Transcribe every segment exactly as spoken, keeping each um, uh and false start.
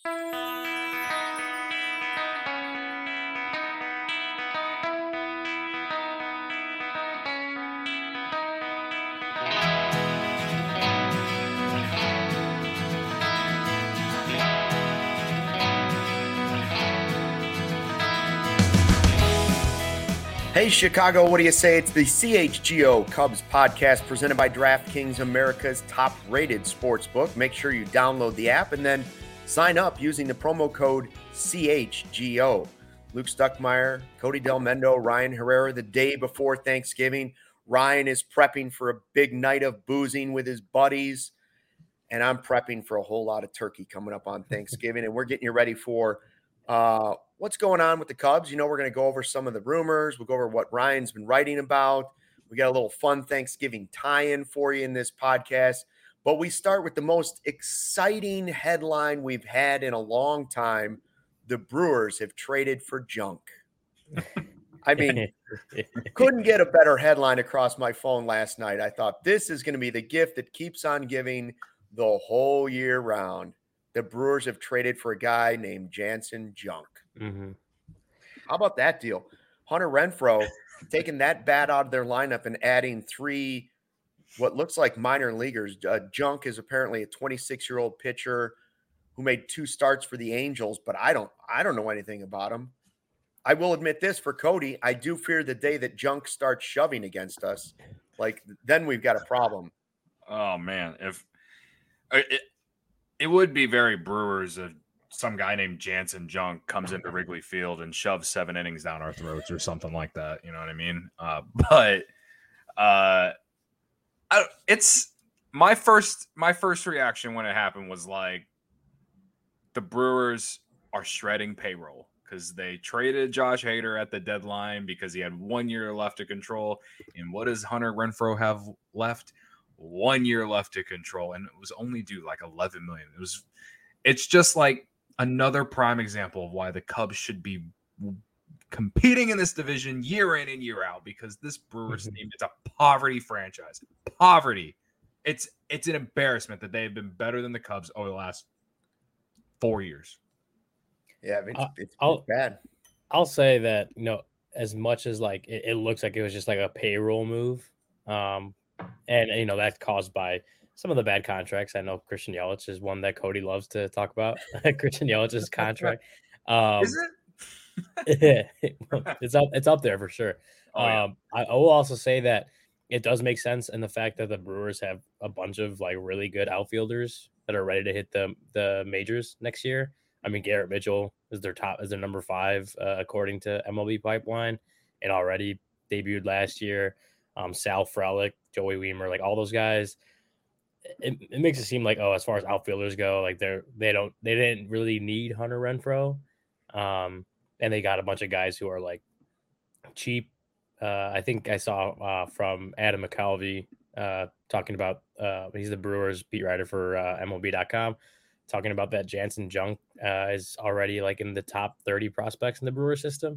Hey, Chicago, what do you say? It's the C H G O Cubs podcast presented by DraftKings, America's top-rated sportsbook. Make sure you download the app and then sign up using the promo code C H G O. Luke Stuckmeyer, Cody Del Mendo, Ryan Herrera, the day before Thanksgiving. Ryan is prepping for a big night of boozing with his buddies, and I'm prepping for a whole lot of turkey coming up on Thanksgiving, and we're getting you ready for uh, what's going on with the Cubs. You know, we're going to go over some of the rumors. We'll go over what Ryan's been writing about. We got a little fun Thanksgiving tie-in for you in this podcast. But we start with the most exciting headline we've had in a long time. The Brewers have traded for junk. I mean, couldn't get a better headline across my phone last night. I thought this is going to be the gift that keeps on giving the whole year round. The Brewers have traded for a guy named Jansen Junk. Mm-hmm. How about that deal? Hunter Renfroe taking that bat out of their lineup and adding three, what looks like minor leaguers. Uh, Junk is apparently a twenty-six-year-old pitcher who made two starts for the Angels, but I don't, I don't know anything about him. I will admit this for Cody. I do fear the day that Junk starts shoving against us. Like, then we've got a problem. Oh man, if it, it would be very Brewers if some guy named Jansen Junk comes into Wrigley Field and shoves seven innings down our throats or something like that. You know what I mean? Uh, but uh, I, it's my first my first reaction when it happened was like the Brewers are shredding payroll because they traded Josh Hader at the deadline because he had one year left to control. And what does Hunter Renfroe have left? One year left to control, and it was only due like eleven million. It was, it's just like another prime example of why the Cubs should be competing in this division year in and year out, because this Brewers team, it's a poverty franchise. Poverty. It's it's an embarrassment that they have been better than the Cubs over the last four years. Yeah, I mean, it's, it's, I'll, it's bad. I'll say that, you know, as much as like it, it looks like it was just like a payroll move. Um, And, you know, that's caused by some of the bad contracts. I know Christian Yelich is one that Cody loves to talk about. Christian Yelich's contract. Um, Is it? it's up it's up there for sure. Oh, yeah. Um, I, I will also say that it does make sense in the fact that the Brewers have a bunch of like really good outfielders that are ready to hit the the majors next year. I mean, Garrett Mitchell is their top, is their number five, uh, according to M L B Pipeline, and already debuted last year. Um, Sal Frelick, Joey Weimer, like all those guys. It, it makes it seem like, oh, as far as outfielders go, like they're they don't they didn't really need Hunter Renfroe, um, and they got a bunch of guys who are like cheap. Uh, I think I saw uh, from Adam McCalvey uh, talking about uh, he's the Brewers beat writer for uh, M L B dot com, talking about that Jansen Junk uh, is already like in the top thirty prospects in the Brewer system.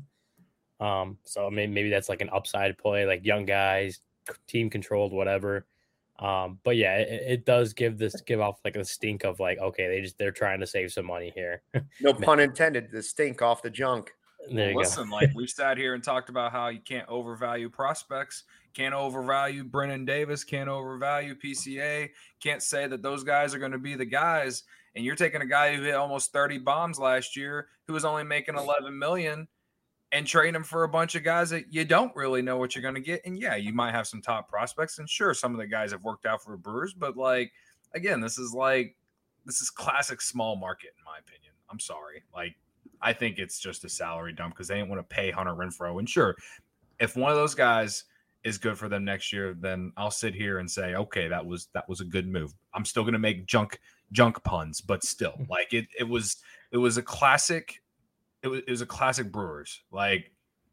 Um, so maybe, maybe that's like an upside play, like young guys, team controlled, whatever. Um, but yeah, it, it does give this give off like a stink of like, okay, they just they're trying to save some money here. No pun intended. The stink off the junk. There you Listen, go. like we sat here and talked about how you can't overvalue prospects, can't overvalue Brennan Davis, can't overvalue P C A, can't say that those guys are going to be the guys. And you're taking a guy who hit almost thirty bombs last year, who was only making eleven million, and trade them for a bunch of guys that you don't really know what you're going to get. And yeah, you might have some top prospects, and sure, some of the guys have worked out for the Brewers, but like, again, this is like, this is classic small market, in my opinion. I'm sorry. Like, I think it's just a salary dump because they didn't want to pay Hunter Renfroe. And sure, if one of those guys is good for them next year, then I'll sit here and say, okay, that was, that was a good move. I'm still going to make junk, junk puns, but still, like it, it was, it was a classic. It was, it was a classic Brewers. Like,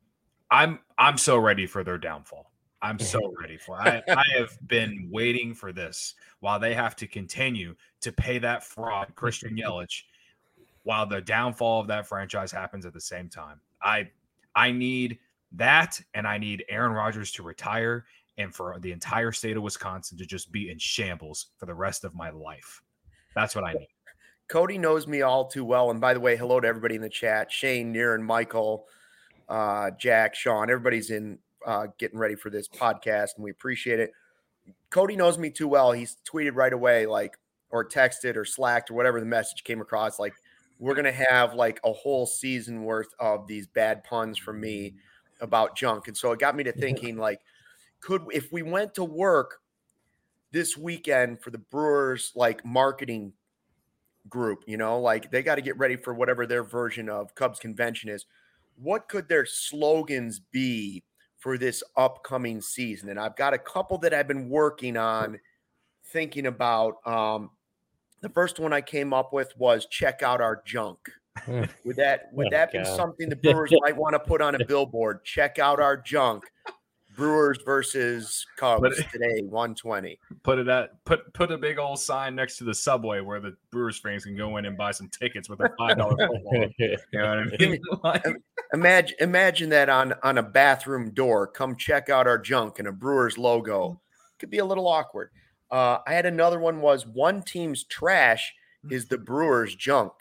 I'm I'm so ready for their downfall. I'm so ready for it. I, I have been waiting for this while they have to continue to pay that fraud, Christian Yelich, while the downfall of that franchise happens at the same time. I I need that, and I need Aaron Rodgers to retire, and for the entire state of Wisconsin to just be in shambles for the rest of my life. That's what I need. Cody knows me all too well. And by the way, hello to everybody in the chat. Shane, Niren, Michael, uh, Jack, Sean, everybody's in uh, getting ready for this podcast, and we appreciate it. Cody knows me too well. He's tweeted right away, like, or texted or slacked or whatever the message came across. Like, we're going to have like a whole season worth of these bad puns from me about junk. And so it got me to thinking, like, could, if we went to work this weekend for the Brewers, like, marketing group, you know, like they got to get ready for whatever their version of Cubs convention is. What could their slogans be for this upcoming season? And I've got a couple that I've been working on, thinking about. Um, the first one I came up with was "Check out our junk." Would that would Oh, that God. be something the Brewers might want to put on a billboard? Check out our junk. Brewers versus Cubs But it- today, one twenty. Put it at put put a big old sign next to the subway where the Brewers fans can go in and buy some tickets with a five dollar football. You know what I mean? Like, Imagine imagine that on on a bathroom door. Come check out our junk and a Brewers logo. Could be a little awkward. Uh, I had another one was one team's trash is the Brewers junk.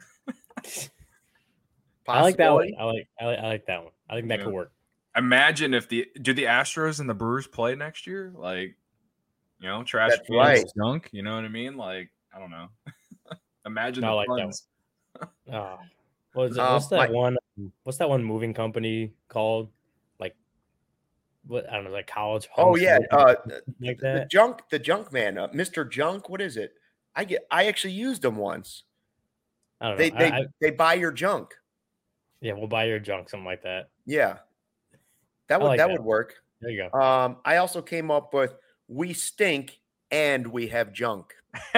I like that one. Possibility? I like, I like I like that one. I think that Yeah. could work. imagine if the do the Astros and the Brewers play next year? Like, you know, trash That's cans, right. junk. You know what I mean? Like, I don't know. Imagine I the like that puns. Oh, what is it? Uh, What's that my- one? What's that one moving company called? Like, what? I don't know, like College. Oh Humps or yeah, something uh, like the that. junk, the junk man, uh, Mister Junk. What is it? I get. I actually used them once. I don't know. They I- they I- they buy your junk. yeah, we'll buy your junk, something like that. Yeah, that would like that that. would work. There you go. Um, I also came up with "We stink and we have junk."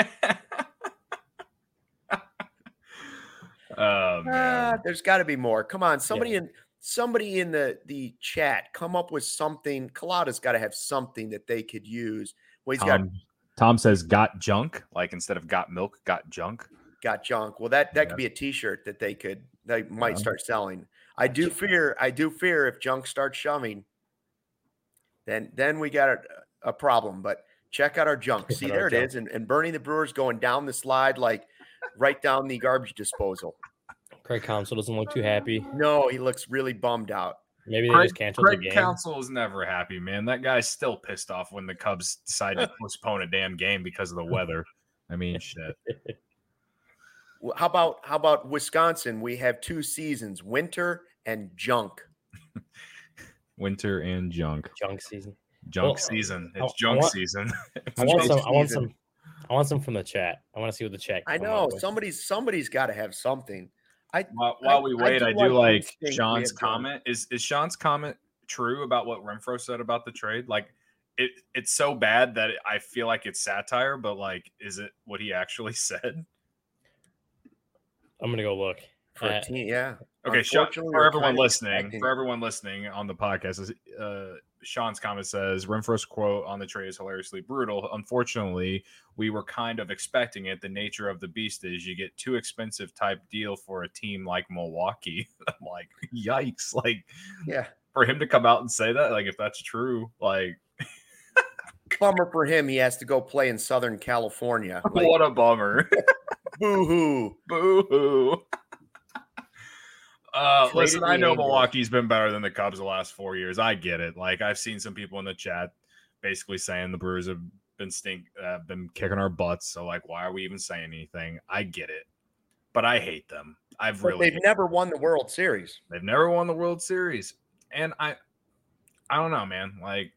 Oh man. Ah, there's got to be more. Come on, somebody in somebody in the the chat, come up with something. Colada's got to have something that they could use. Well, he's got Tom, Tom says got junk, like instead of got milk, got junk. got junk. Well, that that Yeah. could be a T-shirt that they could they might Yeah. start selling. I do fear. I do fear if junk starts shoving, then then we got a, a problem. But check out our junk. Check See, out our there it junk. is, and and Bernie the Brewer's going down the slide like right down the garbage disposal. Craig Counsell doesn't look too happy. No, he looks really bummed out. Maybe they Craig, just canceled Craig the game. Counsell is never happy, man. That guy's still pissed off when the Cubs decide to postpone a damn game because of the weather. I mean, shit. Well, How about how about Wisconsin? We have two seasons, winter and junk. Winter and junk. Junk season. Junk Well, season. I- It's I junk want- season. I want Junk some. I want season. some. I want some from the chat. I want to see what the chat. I come know up with. somebody's somebody's got to have something. I While, while we I- I wait, do I, like do like instinct we Sean's have junk. comment. Is is Sean's comment true about what Renfro said about the trade? Like, it it's so bad that I feel like it's satire, but like, is it what he actually said? I'm gonna go look. for a Uh, team, yeah. Okay, Sean, Unfortunately, for we're everyone kind of listening, expecting- for everyone listening on the podcast, is, uh, Sean's comment says Renfro's quote on the trade is hilariously brutal. Unfortunately, we were kind of expecting it. The nature of the beast is you get too expensive type deal for a team like Milwaukee. I'm like, yikes! Like, Yeah, for him to come out and say that, like, if that's true, like, bummer for him. He has to go play in Southern California. Like, what a bummer. boo hoo. Boo hoo. Uh, Traded listen, the I know Angels. Milwaukee's been better than the Cubs the last four years. I get it. Like, I've seen some people in the chat basically saying the Brewers have been stink, uh, been kicking our butts. So, like, why are we even saying anything? I get it, but I hate them. I've But really they've hate never won the World Series. They've never won the World Series. And I I don't know, man. Like,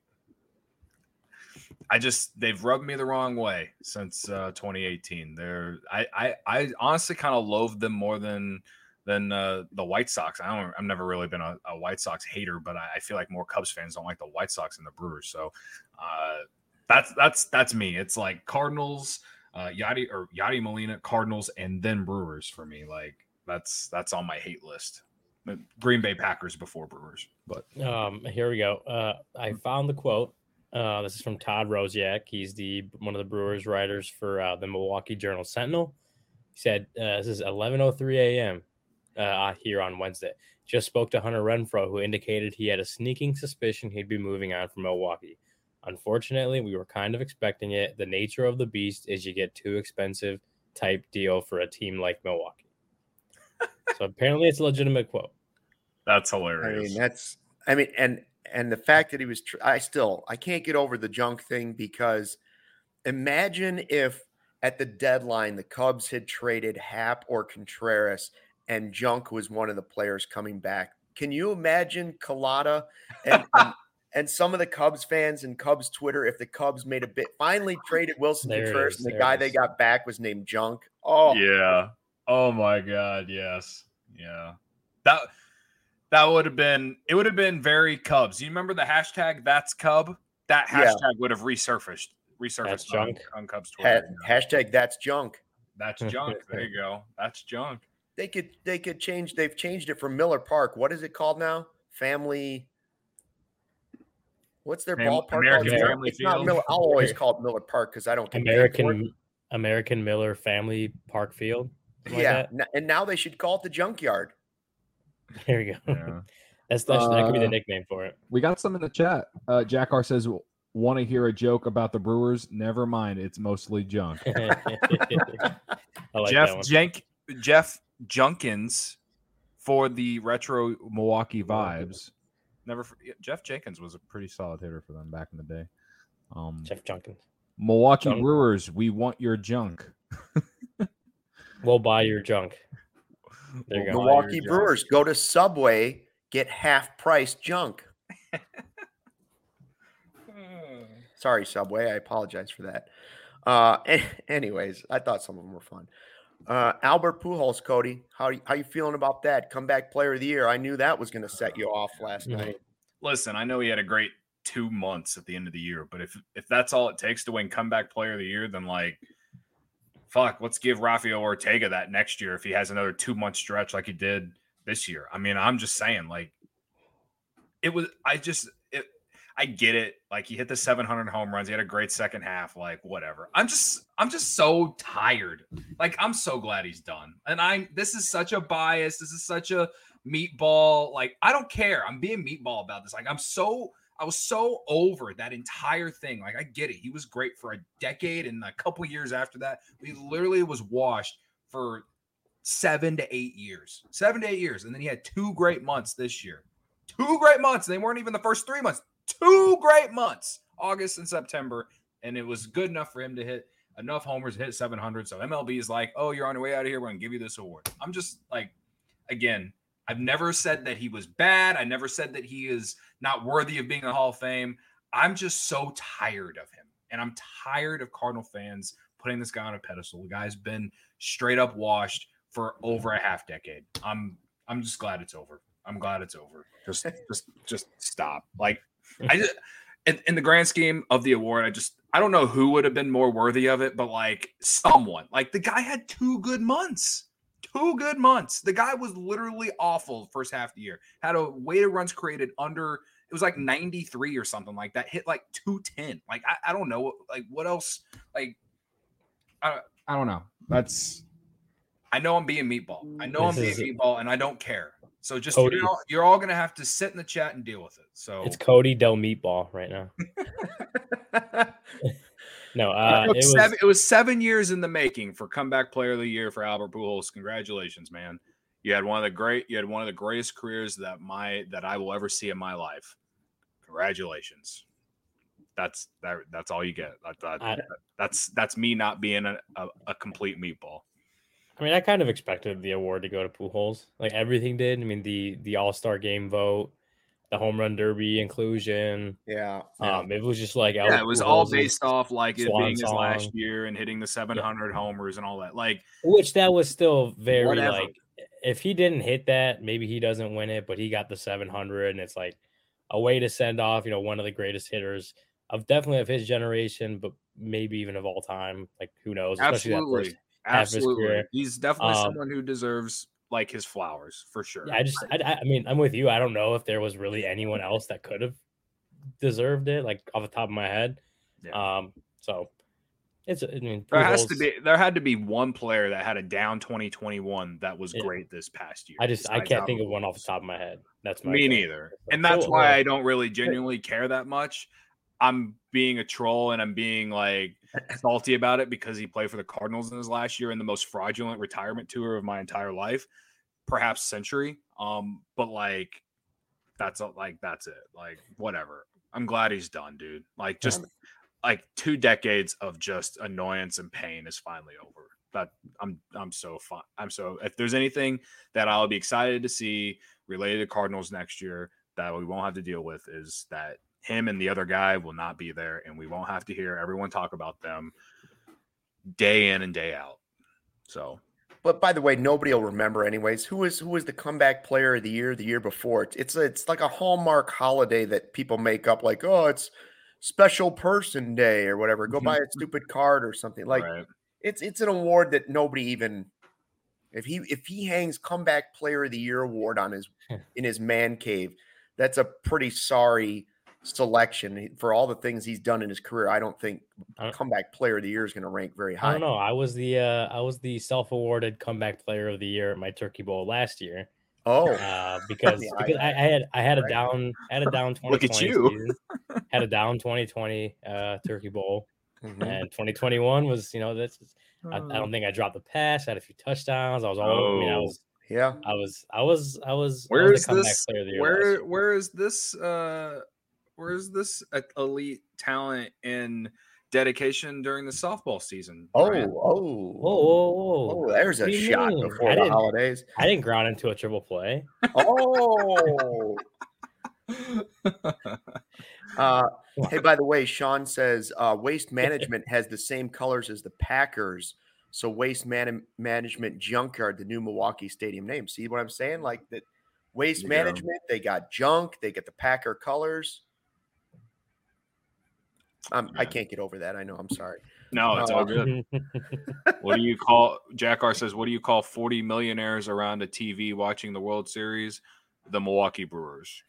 I just they've rubbed me the wrong way since uh twenty eighteen. They're I I, I honestly kind of loathe them more than than uh, the White Sox. I don't I've never really been a, a White Sox hater, but I, I feel like more Cubs fans don't like the White Sox and the Brewers. So uh that's that's that's me. It's like Cardinals, uh Yadi or Yadi Molina, Cardinals, and then Brewers for me. Like that's that's on my hate list. Green Bay Packers before Brewers, but Um, here we go. Uh, I found the quote. Uh, this is from Todd Rosiak. He's the one of the Brewers writers for uh, the Milwaukee Journal Sentinel. He said, uh, "This is eleven oh three a.m. Uh, here on Wednesday. Just spoke to Hunter Renfroe, who indicated he had a sneaking suspicion he'd be moving on from Milwaukee. Unfortunately, we were kind of expecting it. The nature of the beast is you get too expensive type deal for a team like Milwaukee. So apparently it's a legitimate quote. That's I hilarious. mean, that's, I mean, and, and the fact that he was, tr- I still, I can't get over the Junk thing, because imagine if at the deadline, the Cubs had traded Happ or Contreras and Junk was one of the players coming back. Can you imagine Collada and, and, and some of the Cubs fans and Cubs Twitter, if the Cubs made a bit, finally traded Wilson There it Contreras is, and the there guy it they is. got back was named Junk? Oh, Yeah. Oh my God. Yes. Yeah. That that would have been it would have been very Cubs. You remember the hashtag that's Cub? That Yeah. hashtag would have resurfaced resurfaced That's on, junk. on Cubs ha- Twitter. hashtag that's Junk. That's junk. There you go. That's junk. They could they could change. They've changed it from Miller Park. What is it called now? Family. What's their Fam- ballpark American called? Family It's not Field? Miller. I'll always call it Miller Park because I don't get paid for it. American American Miller Family Park Field. something like Yeah, that. n- and now they should call it the Junkyard. There you go. Yeah. That's, that's that could be the Uh, nickname for it. We got some in the chat. Uh, Jack R says, "Want to hear a joke about the Brewers? Never mind. It's mostly junk." I like that Jeff one. Jenk Jeff Junkins For the retro Milwaukee vibes, never forget, Jeff Jenkins was a pretty solid hitter for them back in the day. Um, Jeff Junkins. Milwaukee Junk. Brewers, we want your junk. We'll buy your junk. There you go. Milwaukee your junk. Brewers, go to Subway, get half price junk. Sorry, Subway. I apologize for that. Uh, a- anyways, I thought some of them were fun. Uh, Albert Pujols, Cody, how how you feeling about that comeback player of the year? I knew that was going to set you off last Mhm. night. Listen, I know he had a great two months at the end of the year, but if if that's all it takes to win comeback player of the year, then like, fuck, let's give Rafael Ortega that next year if he has another two month stretch like he did this year. I mean, I'm just saying, like, it was. I just, it, I get it. Like, he hit the seven hundred home runs. He had a great second half. Like, whatever. I'm just, I'm just so tired. Like, I'm so glad he's done. And I, this is such a bias. This is such a meatball. Like, I don't care. I'm being meatball about this. Like, I'm so, I was so over that entire thing. Like, I get it. He was great for a decade, and a couple years after that, he literally was washed for seven to eight years. Seven to eight years. And then he had two great months this year. Two great months. They weren't even the first three months. Two great months, August and September. And it was good enough for him to hit enough homers to hit seven hundred. So M L B is like, oh, you're on your way out of here. We're going to give you this award. I'm just like, again, I've never said that he was bad. I never said that he is not worthy of being in the Hall of Fame. I'm just so tired of him. And I'm tired of Cardinal fans putting this guy on a pedestal. The guy's been straight up washed for over a half decade. I'm I'm just glad it's over. I'm glad it's over. Just just just stop. Like, I just in, in the grand scheme of the award, I just I don't know who would have been more worthy of it, but like someone. Like, the guy had two good months. Two good months. The guy was literally awful the first half of the year. Had a weighted runs created under, it was like ninety-three or something like that. Hit like two ten. Like, I, I don't know. Like, what else? Like, I, I don't know. That's I know I'm being meatball. I know This I'm is- being meatball, and I don't care. So just Cody. you're all, you're all gonna have to sit in the chat and deal with it. So It's Cody Del Meatball right now. No, uh, it, it was seven, it was seven years in the making for comeback player of the year for Albert Pujols. Congratulations, man! You had one of the great, you had one of the greatest careers that my that I will ever see in my life. Congratulations. That's that. That's all you get. That, that, I- that's that's me not being a, a, a complete meatball. I mean, I kind of expected the award to go to Pujols. Like, everything did. I mean, the the All Star Game vote, the Home Run Derby inclusion. Yeah. Um, it was just like Yeah, Albert it was all Pujols' based off like it swan being his last song. year and hitting the seven hundred homers and all that. Like, Which that was still very Whatever. like, if he didn't hit that, maybe he doesn't win it, but he got the seven hundred, and it's like a way to send off, you know, one of the greatest hitters of definitely of his generation, but maybe even of all time. Like, who knows? Especially that absolutely, first half of his absolutely, career. he's definitely Um, someone who deserves like his flowers for sure. Yeah, I just, I, I I mean, I'm with you. I don't know if there was really anyone else that could have deserved it, like off the top of my head. Yeah. Um, so it's, I mean, There has to Pujols- be there had to be one player that had a down twenty twenty-one that was Yeah. great this past year. I just, I besides can't think of Albert one off the Pujols. top of my head. That's my Me thing. neither, So, and that's cool. why Yeah. I don't really genuinely care that much. I'm being a troll and I'm being like salty about it because he played for the Cardinals in his last year in the most fraudulent retirement tour of my entire life, perhaps century. Um, but like that's like that's it. Like whatever. I'm glad he's done, dude. Like just like two decades of just annoyance and pain is finally over. But I'm I'm so fun. I'm so if there's anything that I'll be excited to see related to Cardinals next year that we won't have to deal with is that him and the other guy will not be there, and we won't have to hear everyone talk about them day in and day out. So, but by the way, nobody will remember anyways. Who was who was the comeback player of the year the year before? It's it's, it's like a Hallmark holiday that people make up, like, oh, it's special person day or whatever. Go buy a stupid card or something. Like right. it's it's an award that nobody even if he if he hangs comeback player of the year award on his in his man cave, that's a pretty sorry selection for all the things he's done in his career. I don't think I don't, comeback player of the year is going to rank very high. I don't know. I was the uh, I was the self-awarded comeback player of the year at my Turkey Bowl last year. Oh, uh, because, yeah, because I, I had I had a right. down I had a down twenty twenty Look at you. season, had a down twenty twenty uh, Turkey Bowl, mm-hmm. and twenty twenty-one was you know that's I, I don't think I dropped the pass. I had a few touchdowns. I was all oh. I mean I was yeah I was I was I was Where I was is the comeback this? player of the year Where last year. where is this? Uh, where is this elite talent and dedication during the softball season? oh Brian? oh Whoa, whoa, whoa. oh there's What a do you shot mean? before I the didn't- holidays. I didn't ground into a triple play. Oh uh hey, by the way, Sean says uh Waste Management has the same colors as the Packers, so Waste Man- Management Junkyard, the new Milwaukee Stadium name. See what I'm saying? Like that Waste There you go. Management, they got junk, they get the Packer colors. Um, I Yeah. can't get over that. I know. I'm sorry. No, it's all Uh, good. What do you call Jack R says, what do you call forty millionaires around a T V watching the World Series? The Milwaukee Brewers.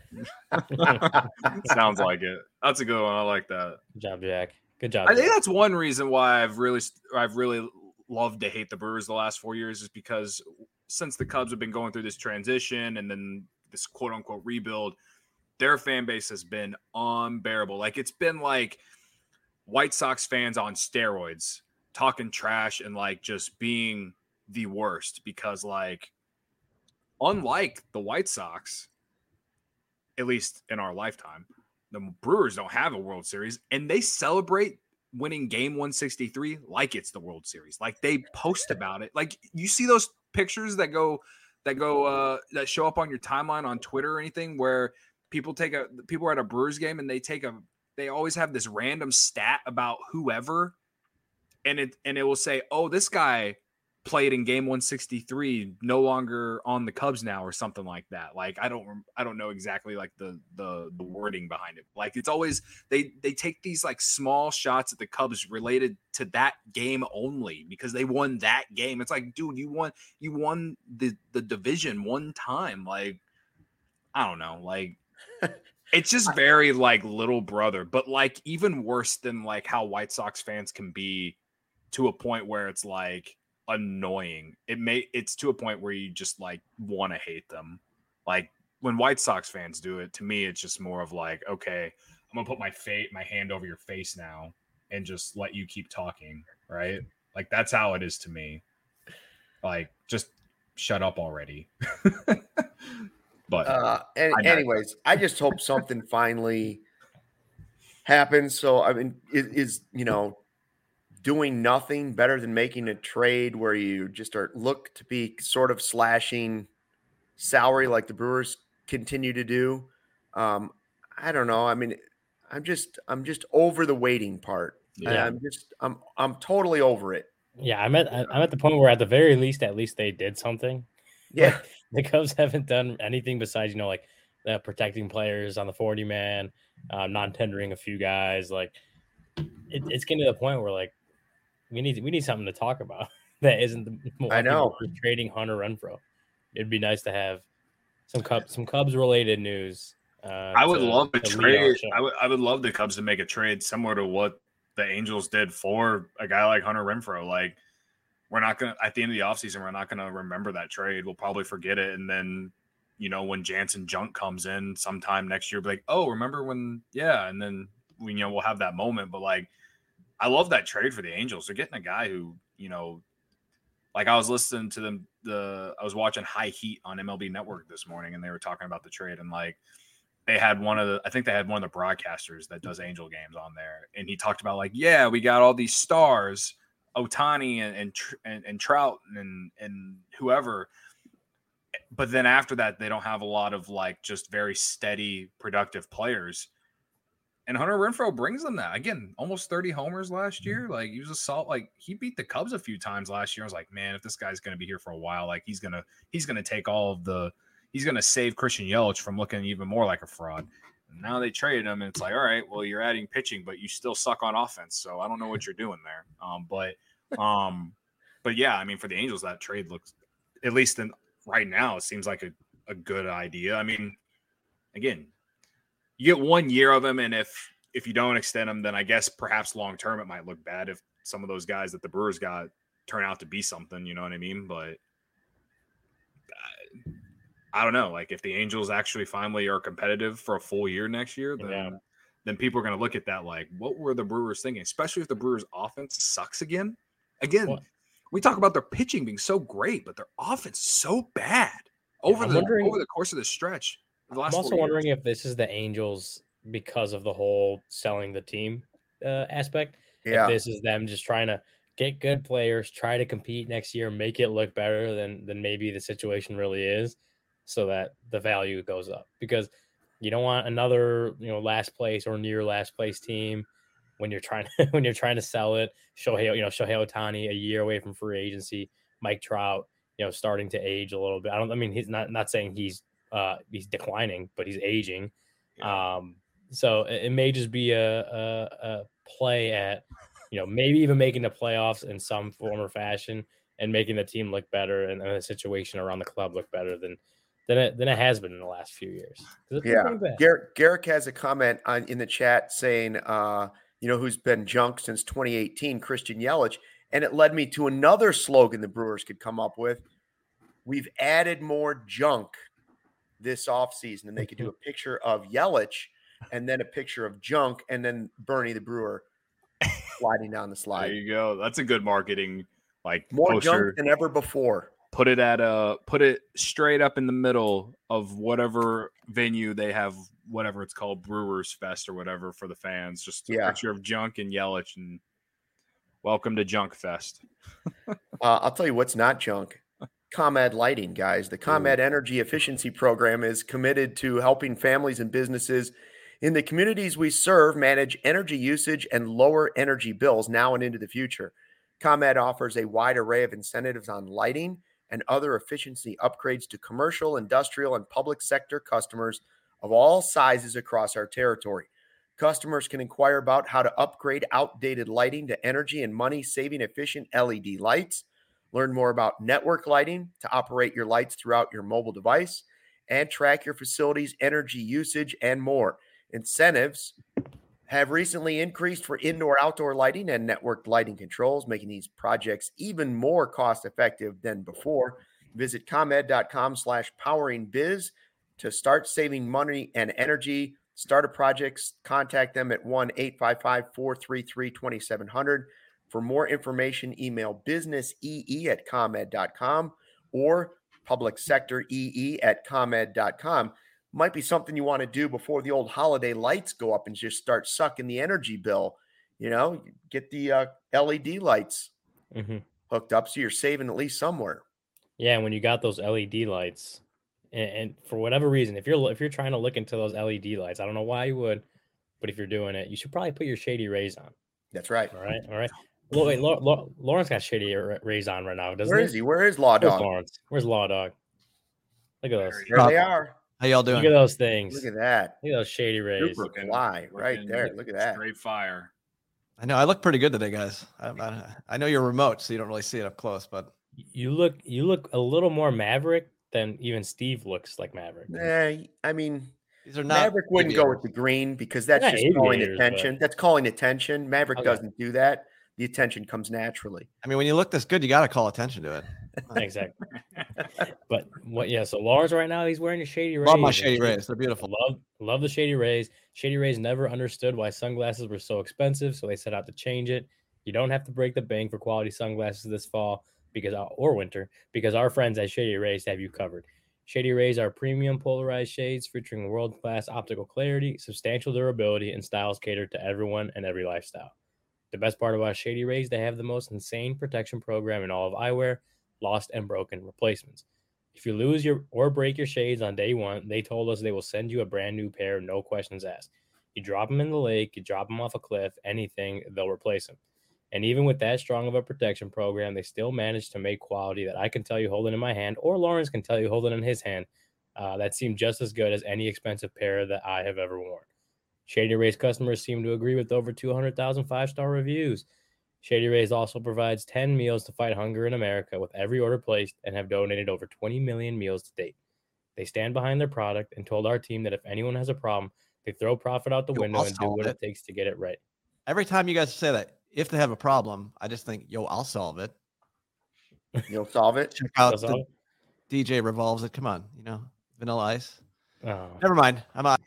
Sounds like it. That's a good one. I like that. Good job, Jack. Good job. I think Jack. that's one reason why I've really I've really loved to hate the Brewers the last four years is because since the Cubs have been going through this transition and then this quote unquote rebuild, their fan base has been unbearable. Like it's been like White Sox fans on steroids talking trash and like just being the worst because like unlike the White Sox, at least in our lifetime, the Brewers don't have a World Series and they celebrate winning game one sixty-three like it's the World Series. Like they post about it. Like you see those pictures that go that go uh that show up on your timeline on Twitter or anything where people take a people are at a Brewers game and they take a they always have this random stat about whoever and it and it will say, "Oh, this guy played in game one sixty-three, no longer on the Cubs now," or something like that. Like I don't I don't know exactly like the the the wording behind it. Like it's always they they take these like small shots at the Cubs related to that game only because they won that game. It's like, dude, you won you won the the division one time. Like I don't know, like it's just very like little brother, but like even worse than like how White Sox fans can be to a point where it's like annoying. It may it's to a point where you just like want to hate them. Like when White Sox fans do it, to me it's just more of like, okay, I'm gonna put my fate my hand over your face now and just let you keep talking, right? Like that's how it is to me. Like just shut up already. But Uh, and I know. anyways, I just hope something finally happens. So I mean, is, is you know, doing nothing better than making a trade where you just are look to be sort of slashing salary like the Brewers continue to do. Um, I don't know. I mean, I'm just I'm just over the waiting part. Yeah. I'm just I'm I'm totally over it. Yeah, I'm at I'm at the point where at the very least, at least they did something. Yeah. The Cubs haven't done anything besides, you know, like uh, protecting players on the forty man, uh, non-tendering a few guys. Like it, it's getting to the point where like we need we need something to talk about that isn't the I know. Brewers trading Hunter Renfroe. It'd be nice to have some Cubs some Cubs related news. Uh, I would to- love to to lead our trade. show. I would I would love the Cubs to make a trade similar to what the Angels did for a guy like Hunter Renfroe. Like we're not gonna at the end of the offseason, we're not gonna remember that trade. We'll probably forget it. And then, you know, when Jansen Junk comes in sometime next year, be like, oh, remember when yeah, and then you know, we'll have that moment. But like, I love that trade for the Angels. They're getting a guy who, you know, like I was listening to them. The I was watching High Heat on M L B Network this morning, and they were talking about the trade, and like they had one of the, I think they had one of the broadcasters that does Angel games on there, and he talked about like, yeah, we got all these stars, Ohtani and and and, and Trout and and whoever. But then after that, they don't have a lot of like just very steady, productive players. And Hunter Renfroe brings them that. Again, almost thirty homers last year. Like he was a salt. Like he beat the Cubs a few times last year. I was like, man, if this guy's going to be here for a while, like he's gonna he's gonna take all of the he's gonna save Christian Yelich from looking even more like a fraud. And now they traded him, and it's like, all right, well, you're adding pitching, but you still suck on offense. So I don't know what you're doing there. Um, but um, but yeah, I mean, for the Angels, that trade looks, at least in right now, it seems like a, a good idea. I mean, again, you get one year of him, and if if you don't extend him, then I guess perhaps long term it might look bad if some of those guys that the Brewers got turn out to be something. You know what I mean? But I, I don't know. Like if the Angels actually finally are competitive for a full year next year, then yeah. then people are going to look at that like, what were the Brewers thinking? Especially if the Brewers' offense sucks again. Again, what? We talk about their pitching being so great, but their offense so bad over yeah, the wondering- over the course of the stretch. I'm also wondering years. if this is the Angels because of the whole selling the team uh, aspect. Yeah. If this is them just trying to get good players, try to compete next year, make it look better than than maybe the situation really is, so that the value goes up. Because you don't want another, you know, last place or near last place team when you're trying to when you're trying to sell it. Shohei, you know, Shohei Ohtani a year away from free agency, Mike Trout, you know, starting to age a little bit. I don't. I mean, he's not not saying he's. Uh, he's declining, but he's aging. Yeah. Um, so it, it may just be a, a, a play at, you know, maybe even making the playoffs in some form or fashion and making the team look better and, and the situation around the club look better than than it than it has been in the last few years. Yeah, Garrick, Garrick has a comment on in the chat saying, uh, you know, who's been junk since twenty eighteen, Christian Yelich, and it led me to another slogan the Brewers could come up with. We've added more junk this offseason, and they could do a picture of Yelich and then a picture of junk and then Bernie the Brewer sliding down the slide. There you go. That's a good marketing like more poster. Junk than ever before. Put it at a put it straight up in the middle of whatever venue they have, whatever it's called, Brewers Fest or whatever for the fans. Just a yeah. picture of junk and Yelich, and welcome to Junk Fest. uh, I'll tell you what's not junk. ComEd Lighting, guys. The ComEd Energy Efficiency Program is committed to helping families and businesses in the communities we serve manage energy usage and lower energy bills now and into the future. ComEd offers a wide array of incentives on lighting and other efficiency upgrades to commercial, industrial, and public sector customers of all sizes across our territory. Customers can inquire about how to upgrade outdated lighting to energy and money-saving efficient L E D lights. Learn more about network lighting to operate your lights throughout your mobile device and track your facility's energy usage and more. Incentives have recently increased for indoor-outdoor lighting and networked lighting controls, making these projects even more cost-effective than before. Visit ComEd.com slash poweringbiz to start saving money and energy. Start a project, contact them at one eight five five, four three three, two seven zero zero. For more information, email businessee at comed dot com or public sector ee at comed dot com. Might be something you want to do before the old holiday lights go up and just start sucking the energy bill. You know, get the uh, L E D lights mm-hmm. hooked up so you're saving at least somewhere. Yeah, and when you got those L E D lights, and, and for whatever reason, if you're if you're trying to look into those L E D lights, I don't know why you would, but if you're doing it, you should probably put your Shady Rays on. That's right. All right, all right. Well, wait, La- La- Lawrence got Shady Rays on right now, doesn't Where he? is he? Where is Law Dog? Where's Lawrence? Where's Law Dog? Look at those. There they are. How y'all doing? Look at those things. Look at that. Look at those Shady Rays. Super fly right there. Look at that. Straight fire. I know. I look pretty good today, guys. I, I, I know you're remote, so you don't really see it up close, but you look you look a little more Maverick than even Steve looks like Maverick. Nah, I mean, these are not Maverick wouldn't go with the green because that's They're just calling aviators, attention. but- That's calling attention. Maverick Okay. doesn't do that. The attention comes naturally. I mean, when you look this good, you got to call attention to it. Exactly. But what? Yeah. So Lawrence right now he's wearing a Shady Rays. Love my Shady Rays. They're beautiful. Love love the Shady Rays. Shady Rays never understood why sunglasses were so expensive, so they set out to change it. You don't have to break the bank for quality sunglasses this fall because or winter because our friends at Shady Rays have you covered. Shady Rays are premium polarized shades featuring world-class optical clarity, substantial durability, and styles catered to everyone and every lifestyle. The best part about Shady Rays, they have the most insane protection program in all of eyewear, lost and broken replacements. If you lose your or break your shades on day one, they told us they will send you a brand new pair, no questions asked. You drop them in the lake, you drop them off a cliff, anything, they'll replace them. And even with that strong of a protection program, they still manage to make quality that I can tell you holding in my hand, or Lawrence can tell you holding in his hand, uh, that seemed just as good as any expensive pair that I have ever worn. Shady Rays customers seem to agree with over two hundred thousand five-star reviews. Shady Rays also provides ten meals to fight hunger in America with every order placed and have donated over twenty million meals to date. They stand behind their product and told our team that if anyone has a problem, they throw profit out the Yo, window I'll and do solve what it. it takes to get it right. Every time you guys say that, if they have a problem, I just think, yo, I'll solve it. You'll solve it. Check out That's the all? D J revolves it. Come on, you know, Vanilla Ice. Oh, Never mind. I'm out.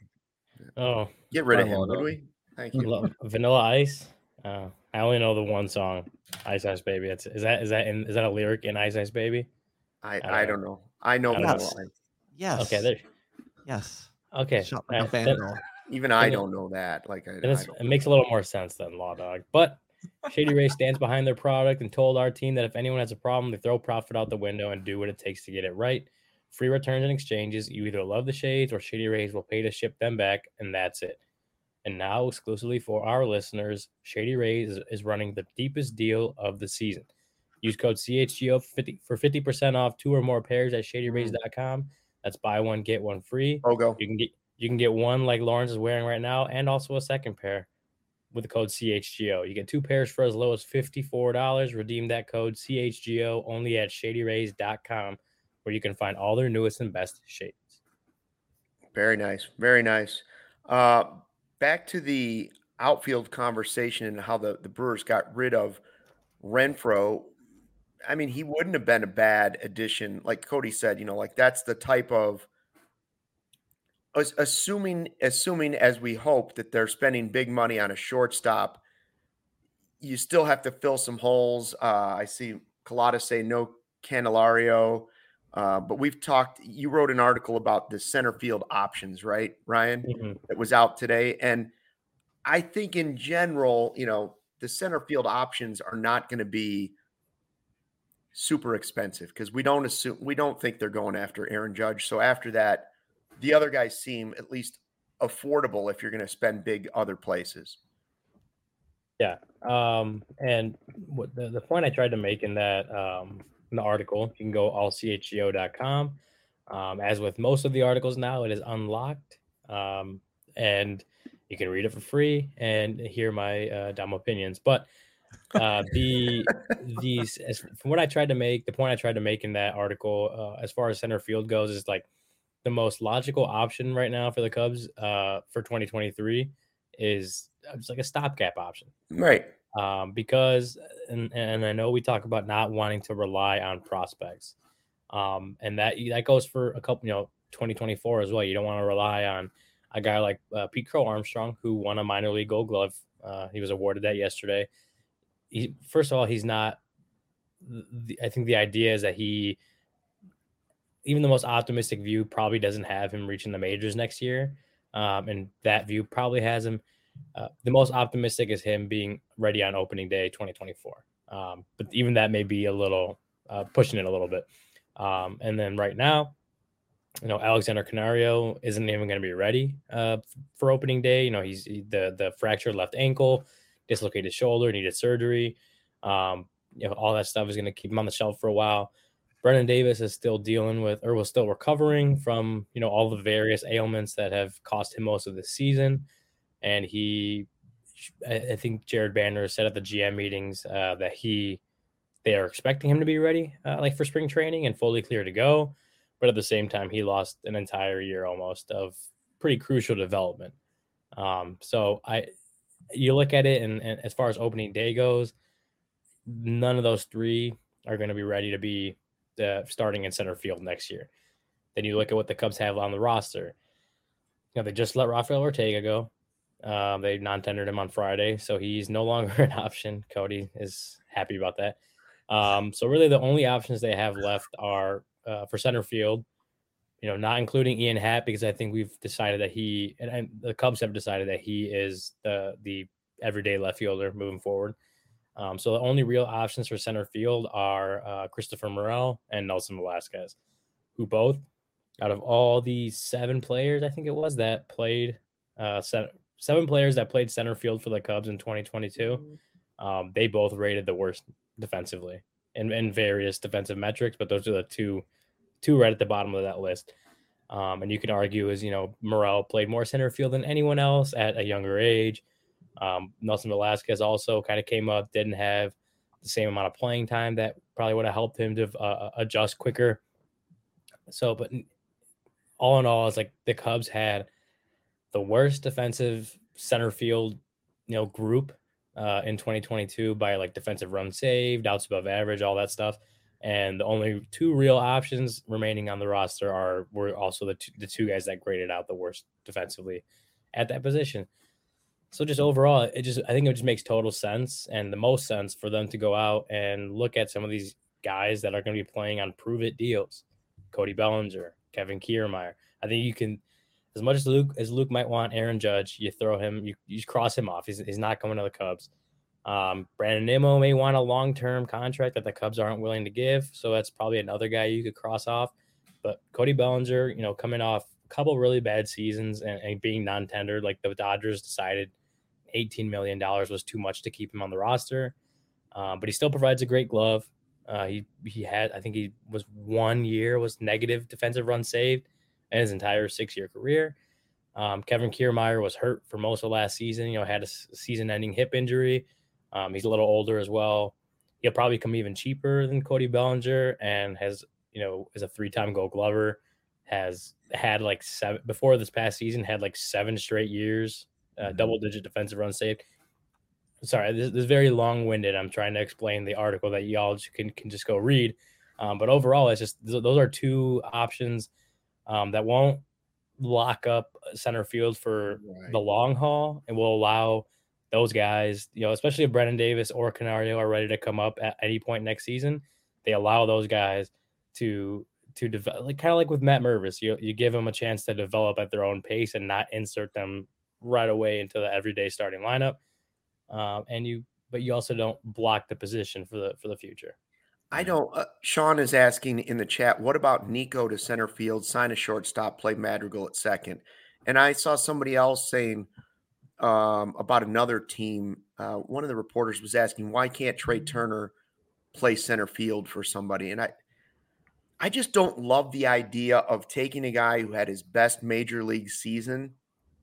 oh Get rid of Fine, him, well would done. we? Thank you. Lo- Vanilla Ice. Uh, I only know the one song, Ice Ice Baby. That's is that is that in, is that a lyric in Ice Ice Baby? I, don't I know. don't know. I know I don't that know. line. Yes. Okay, there. Yes. Okay, Shut like uh, a fan then- girl. Even I And it- don't know that. Like I, and I it's, don't. it makes a little more sense than Law Dog. But Shady Ray stands behind their product and told our team that if anyone has a problem, they throw profit out the window and do what it takes to get it right. Free returns and exchanges. You either love the shades or Shady Rays will pay to ship them back, and that's it. And now, exclusively for our listeners, Shady Rays is, is running the deepest deal of the season. Use code C H G O for fifty for fifty percent off two or more pairs at shady rays dot com. That's buy one get one free. Pogo. You can get you can get one like Lawrence is wearing right now, and also a second pair with the code C H G O. You get two pairs for as low as fifty-four dollars. Redeem that code C H G O only at shady rays dot com, where you can find all their newest and best shades. Very nice. Very nice. Uh, back to the outfield conversation and how the, the Brewers got rid of Renfroe. I mean, he wouldn't have been a bad addition. Like Cody said, you know, like that's the type of as- assuming, assuming as we hope that they're spending big money on a shortstop, you still have to fill some holes. Uh, I see Colada say no Candelario. Uh, but we've talked, you wrote an article about the center field options, right, Ryan? Mm-hmm. That was out today. And I think in general, you know, the center field options are not going to be super expensive because we don't assume, we don't think they're going after Aaron Judge. So after that, the other guys seem at least affordable if you're going to spend big other places. Yeah. Um, and what the, the point I tried to make in that um, in the article, you can go all C H G O dot com. Um, as with most of the articles now, it is unlocked. Um, and you can read it for free and hear my uh, dumb opinions. But uh, the these as, from what I tried to make, the point I tried to make in that article, uh, as far as center field goes, is like the most logical option right now for the Cubs uh, for twenty twenty-three is it's like a stopgap option. Right. Um, because, and, and I know we talk about not wanting to rely on prospects. Um, and that, that goes for a couple, you know, twenty twenty-four as well. You don't want to rely on a guy like uh, Pete Crow Armstrong, who won a minor league gold glove. Uh, he was awarded that yesterday. He, first of all, he's not, the, I think the idea is that he, even the most optimistic view probably doesn't have him reaching the majors next year. Um, and that view probably has him. Uh, the most optimistic is him being ready on opening day twenty twenty-four. Um, but even that may be a little uh, pushing it a little bit. Um, and then right now, you know, Alexander Canario isn't even going to be ready uh, for opening day. You know, he's he, the the fractured left ankle, dislocated shoulder, needed surgery. Um, you know, all that stuff is going to keep him on the shelf for a while. Brennan Davis is still dealing with, or was still recovering from, you know, all the various ailments that have cost him most of the season. And he, I think Jared Banner said at the G M meetings uh, that he, they are expecting him to be ready, uh, like for spring training and fully clear to go. But at the same time, he lost an entire year almost of pretty crucial development. Um, so I, you look at it, and, and as far as opening day goes, none of those three are going to be ready to be uh, starting in center field next year. Then you look at what the Cubs have on the roster. You know, they just let Rafael Ortega go. Um, they non-tendered him on Friday, so he's no longer an option. Cody is happy about that. Um, so really the only options they have left are uh, for center field, you know, not including Ian Happ, because I think we've decided that he and, and the Cubs have decided that he is the the everyday left fielder moving forward. Um, so the only real options for center field are uh, Christopher Morel and Nelson Velasquez, who both, out of all the seven players, I think it was, that played uh, seven, seven players that played center field for the Cubs in twenty twenty-two, um, they both rated the worst defensively in, in various defensive metrics, but those are the two two right at the bottom of that list. Um, and you can argue is, you know, Morel played more center field than anyone else at a younger age. Um, Nelson Velasquez also kind of came up, didn't have the same amount of playing time that probably would have helped him to uh, adjust quicker. So, but all in all, it's like the Cubs had the worst defensive center field, you know, group uh, in twenty twenty-two by like defensive runs saved, outs above average, all that stuff. And the only two real options remaining on the roster are were also the two, the two guys that graded out the worst defensively at that position. So just overall, it just I think it just makes total sense and the most sense for them to go out and look at some of these guys that are going to be playing on prove-it deals. Cody Bellinger, Kevin Kiermaier. I think you can, as much as Luke as Luke might want Aaron Judge, you throw him, you, you cross him off. He's, he's not going to the Cubs. Um, Brandon Nimmo may want a long-term contract that the Cubs aren't willing to give, so that's probably another guy you could cross off. But Cody Bellinger, you know, coming off a couple really bad seasons and, and being non-tendered, like the Dodgers decided eighteen million dollars was too much to keep him on the roster. Um, but he still provides a great glove. Uh, he he had, I think he was one year was negative defensive run saved in his entire six-year career. Um, Kevin Kiermaier was hurt for most of last season. You know, had a season-ending hip injury. Um, he's a little older as well. He'll probably come even cheaper than Cody Bellinger, and has, you know, is a three-time Gold Glover. Has had like seven before this past season. Had like seven straight years, uh, mm-hmm. double-digit defensive run saved. Sorry, this, this is very long-winded. I'm trying to explain the article that y'all can can just go read. Um, but overall, it's just those are two options um, that won't lock up center field for right. the long haul, and will allow those guys, you know, especially if Brennan Davis or Canario are ready to come up at any point next season, they allow those guys to to develop, like kind of like with Matt Mervis. You you give them a chance to develop at their own pace and not insert them right away into the everyday starting lineup. Um, and you, but you also don't block the position for the for the future. I don't. Uh, Sean is asking in the chat, what about Nico to center field, sign a shortstop, play Madrigal at second? And I saw somebody else saying um, about another team. Uh, one of the reporters was asking, why can't Trey Turner play center field for somebody? And I, I just don't love the idea of taking a guy who had his best major league season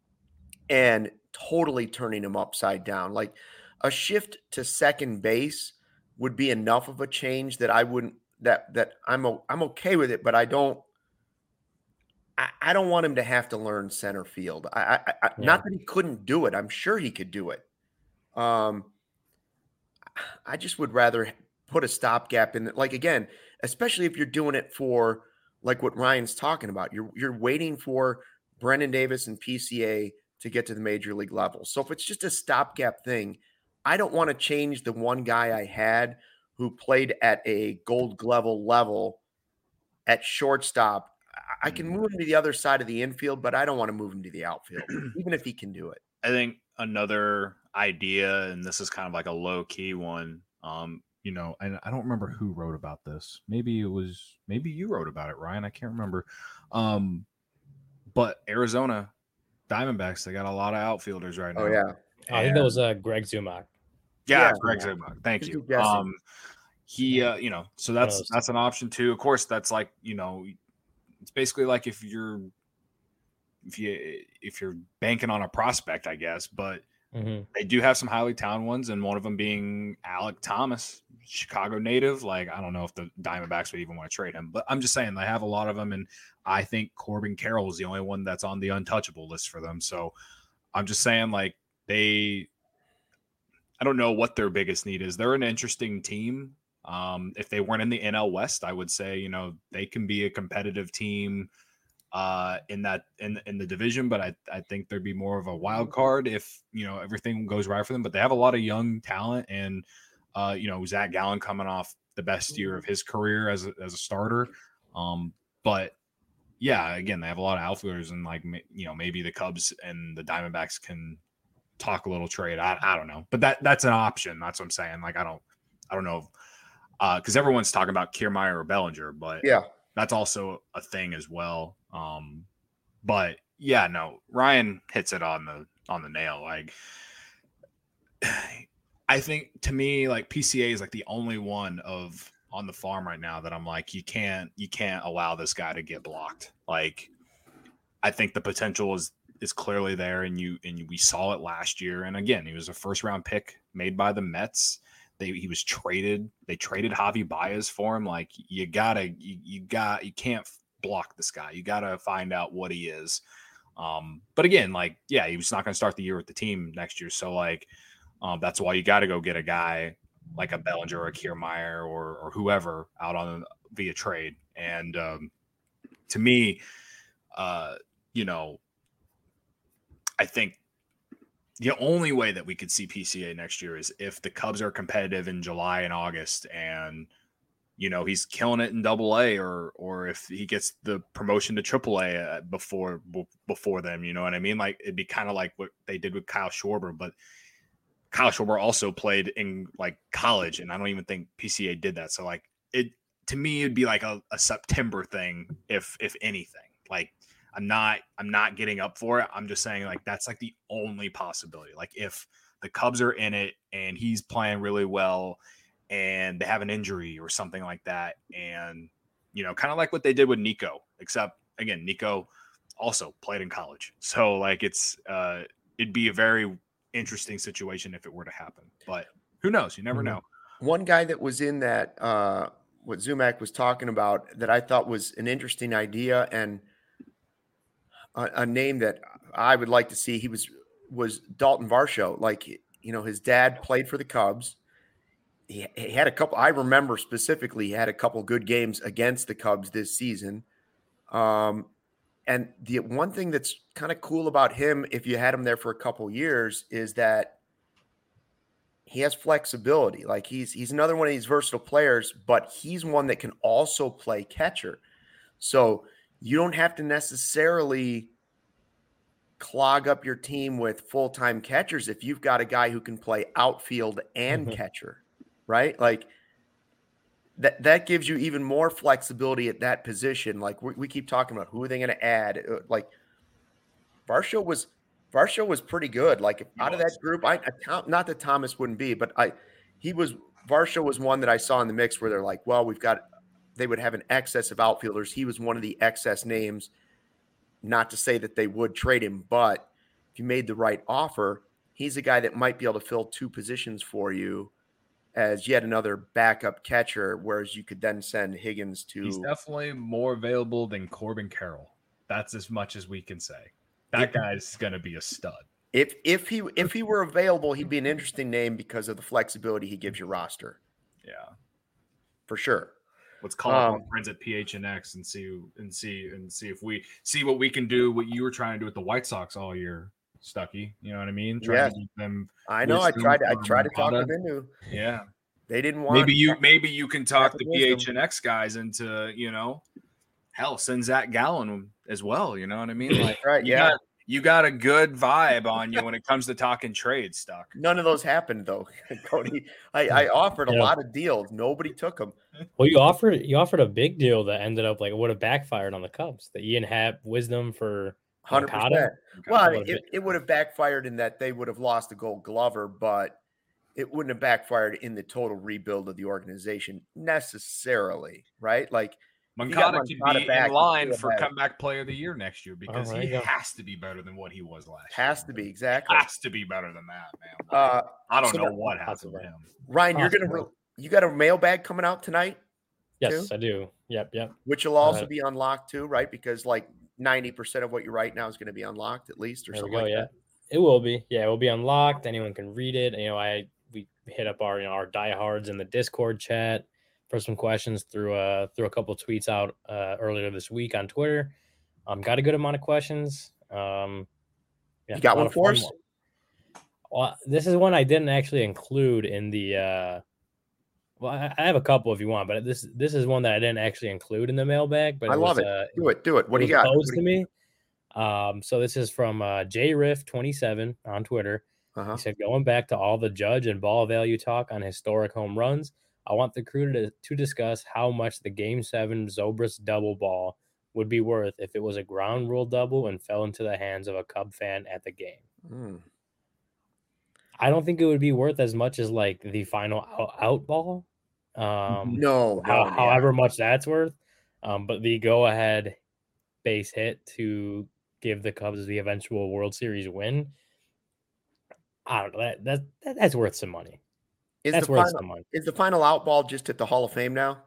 and totally turning him upside down. Like a shift to second base would be enough of a change that I wouldn't, that, that I'm, I'm okay with it, but I don't, I, I don't want him to have to learn center field. I, I, I yeah. Not that he couldn't do it. I'm sure he could do it. Um, I just would rather put a stopgap in, like, again, especially if you're doing it for like what Ryan's talking about, you're, you're waiting for Brennan Davis and P C A to get to the major league level. So if it's just a stopgap thing, I don't want to change the one guy I had who played at a Gold Glove level at shortstop. I can move him to the other side of the infield, but I don't want to move him to the outfield, even if he can do it. I think another idea, and this is kind of like a low key one, um, you know, and I don't remember who wrote about this. Maybe it was, maybe you wrote about it, Ryan. I can't remember. Um, but Arizona Diamondbacks, they got a lot of outfielders right now. Oh, yeah. I think that was uh, Greg Zumock. Yeah, yeah, Greg Zumock. Thank you. Um, he, uh, you know, so that's that's an option too. Of course, that's like, you know, it's basically like if you're if you if you're banking on a prospect, I guess. But mm-hmm. they do have some highly talented ones, and one of them being Alek Thomas, Chicago native. Like, I don't know if the Diamondbacks would even want to trade him, but I'm just saying they have a lot of them, and I think Corbin Carroll is the only one that's on the untouchable list for them. So I'm just saying, like, they. I don't know what their biggest need is. They're an interesting team. Um, if they weren't in the N L West, I would say, you know, they can be a competitive team uh, in that in in the division, but I I think there'd be more of a wild card if, you know, everything goes right for them. But they have a lot of young talent, and uh, you know, Zach Gallen coming off the best year of his career as a, as a starter. Um, but yeah, again, they have a lot of outfielders, and like, you know, maybe the Cubs and the Diamondbacks can talk a little trade. I, I don't know, but that that's an option. That's what I'm saying. Like, I don't, I don't know. Uh, cause everyone's talking about Kiermaier or Bellinger, but yeah, that's also a thing as well. Um, but yeah, no, Ryan hits it on the, on the nail. Like, I think to me, like P C A is like the only one of on the farm right now that I'm like, you can't, you can't allow this guy to get blocked. Like, I think the potential is, is clearly there. And you, and we saw it last year. And again, he was a first round pick made by the Mets. They, he was traded. They traded Javi Baez for him. Like, you gotta, you, you got, you can't block this guy. You gotta find out what he is. Um, but again, like, yeah, he was not going to start the year with the team next year. So like, um, that's why you got to go get a guy like a Bellinger or a Kiermaier or, or whoever out on via trade. And um, to me, uh, you know, I think the only way that we could see P C A next year is if the Cubs are competitive in July and August, and, you know, he's killing it in Double A, or or if he gets the promotion to Triple A before before them. You know what I mean? Like, it'd be kind of like what they did with Kyle Schwarber, but Kyle Schwarber also played in like college, and I don't even think P C A did that. So like, it to me, it'd be like a, a September thing, if if anything. Like, I'm not I'm not getting up for it. I'm just saying, like, that's like the only possibility. Like, if the Cubs are in it and he's playing really well and they have an injury or something like that, and, you know, kind of like what they did with Nico, except again, Nico also played in college. So like, it's uh it'd be a very interesting situation if it were to happen, but who knows? You never know. One guy that was in that uh what Zumac was talking about that I thought was an interesting idea, and a, a name that I would like to see, he was was Dalton Varsho. Like, you know, his dad played for the Cubs. He, he had a couple, I remember specifically, he had a couple good games against the Cubs this season. Um And the one thing that's kind of cool about him, if you had him there for a couple years, is that he has flexibility. Like, he's he's another one of these versatile players, but he's one that can also play catcher. So you don't have to necessarily clog up your team with full-time catchers if you've got a guy who can play outfield and Mm-hmm. catcher, right? Like, That that gives you even more flexibility at that position. Like, we, we keep talking about who are they going to add. Uh, Like, Varsho was Varsho was pretty good. Like, if out of that group, I, I count, not that Thomas wouldn't be, but I he was Varsho was one that I saw in the mix where they're like, well, we've got they would have an excess of outfielders. He was one of the excess names. Not to say that they would trade him, but if you made the right offer, he's a guy that might be able to fill two positions for you as yet another backup catcher, whereas you could then send Higgins to. He's definitely more available than Corbin Carroll. That's as much as we can say. That guy's going to be a stud. If if he if he were available, he'd be an interesting name because of the flexibility he gives your roster, Yeah. for sure. Let's call up Um, our friends at P H N X and see and see and see if we see what we can do. What you were trying to do with the White Sox all year, Stucky. You know what I mean? Trying Yeah. to keep them. I know. I wisdom tried. I from tried to talk Moncada. them into. Yeah. They didn't want. Maybe you maybe you can talk Patrick the Wisdom. P H N X guys into, you know, hell, send Zach Gallen as well. You know what I mean? Like, Right, you yeah. got you got a good vibe on you when it comes to talking trade, Stuck. None of those happened though, Cody. I, I offered a Yeah. lot of deals. Nobody took them. Well, you offered you offered a big deal that ended up like it would have backfired on the Cubs. The Ian Happ wisdom for Hundred Moncada. percent. Well, I mean, Would've it, it would have backfired in that they would have lost the Gold Glover, but it wouldn't have backfired in the total rebuild of the organization necessarily, right? Like, if you got Moncada could Moncada be back, in you line still for have- comeback player of the year next year because there he you go. has to be better than what he was last has year. to be exactly. Has to be better than that, man. Uh, I don't so know that- what happened to possible. him. Ryan, you're gonna Possible. re- you got a mailbag coming out tonight, Yes, too? I do. Yep, yep. which will also Uh, be unlocked too, right? Because like ninety percent of what you write now is going to be unlocked at least, or There we something go. like Yeah, that. it will be. Yeah, it will be unlocked. Anyone can read it. You know, I we hit up our you know our diehards in the Discord chat. for some questions through uh through a couple of tweets out uh, earlier this week on Twitter. Um, got a good amount of questions. Um, yeah, You got a lot one of for fun us? one. Well, this is one I didn't actually include in the. Uh, well, I, I have a couple if you want, but this this is one that I didn't actually include in the mailbag. But I it love was, it. Uh, Do it. Do it. What it do you was got? posed What to do you- me. Um, so this is from uh, J Riff twenty-seven on Twitter. Uh-huh. He said, going back to all the judge and ball value talk on historic home runs, I want the crew to, to discuss how much the Game seven Zobrist double ball would be worth if it was a ground rule double and fell into the hands of a Cub fan at the game. Mm. I don't think it would be worth as much as like the final out, out ball. Um, No, how, no, however much that's worth. Um, but the go ahead base hit to give the Cubs the eventual World Series win, I don't know. That, that, that that's worth some money. Is That's the worth final some money. is the final out ball just at the Hall of Fame now?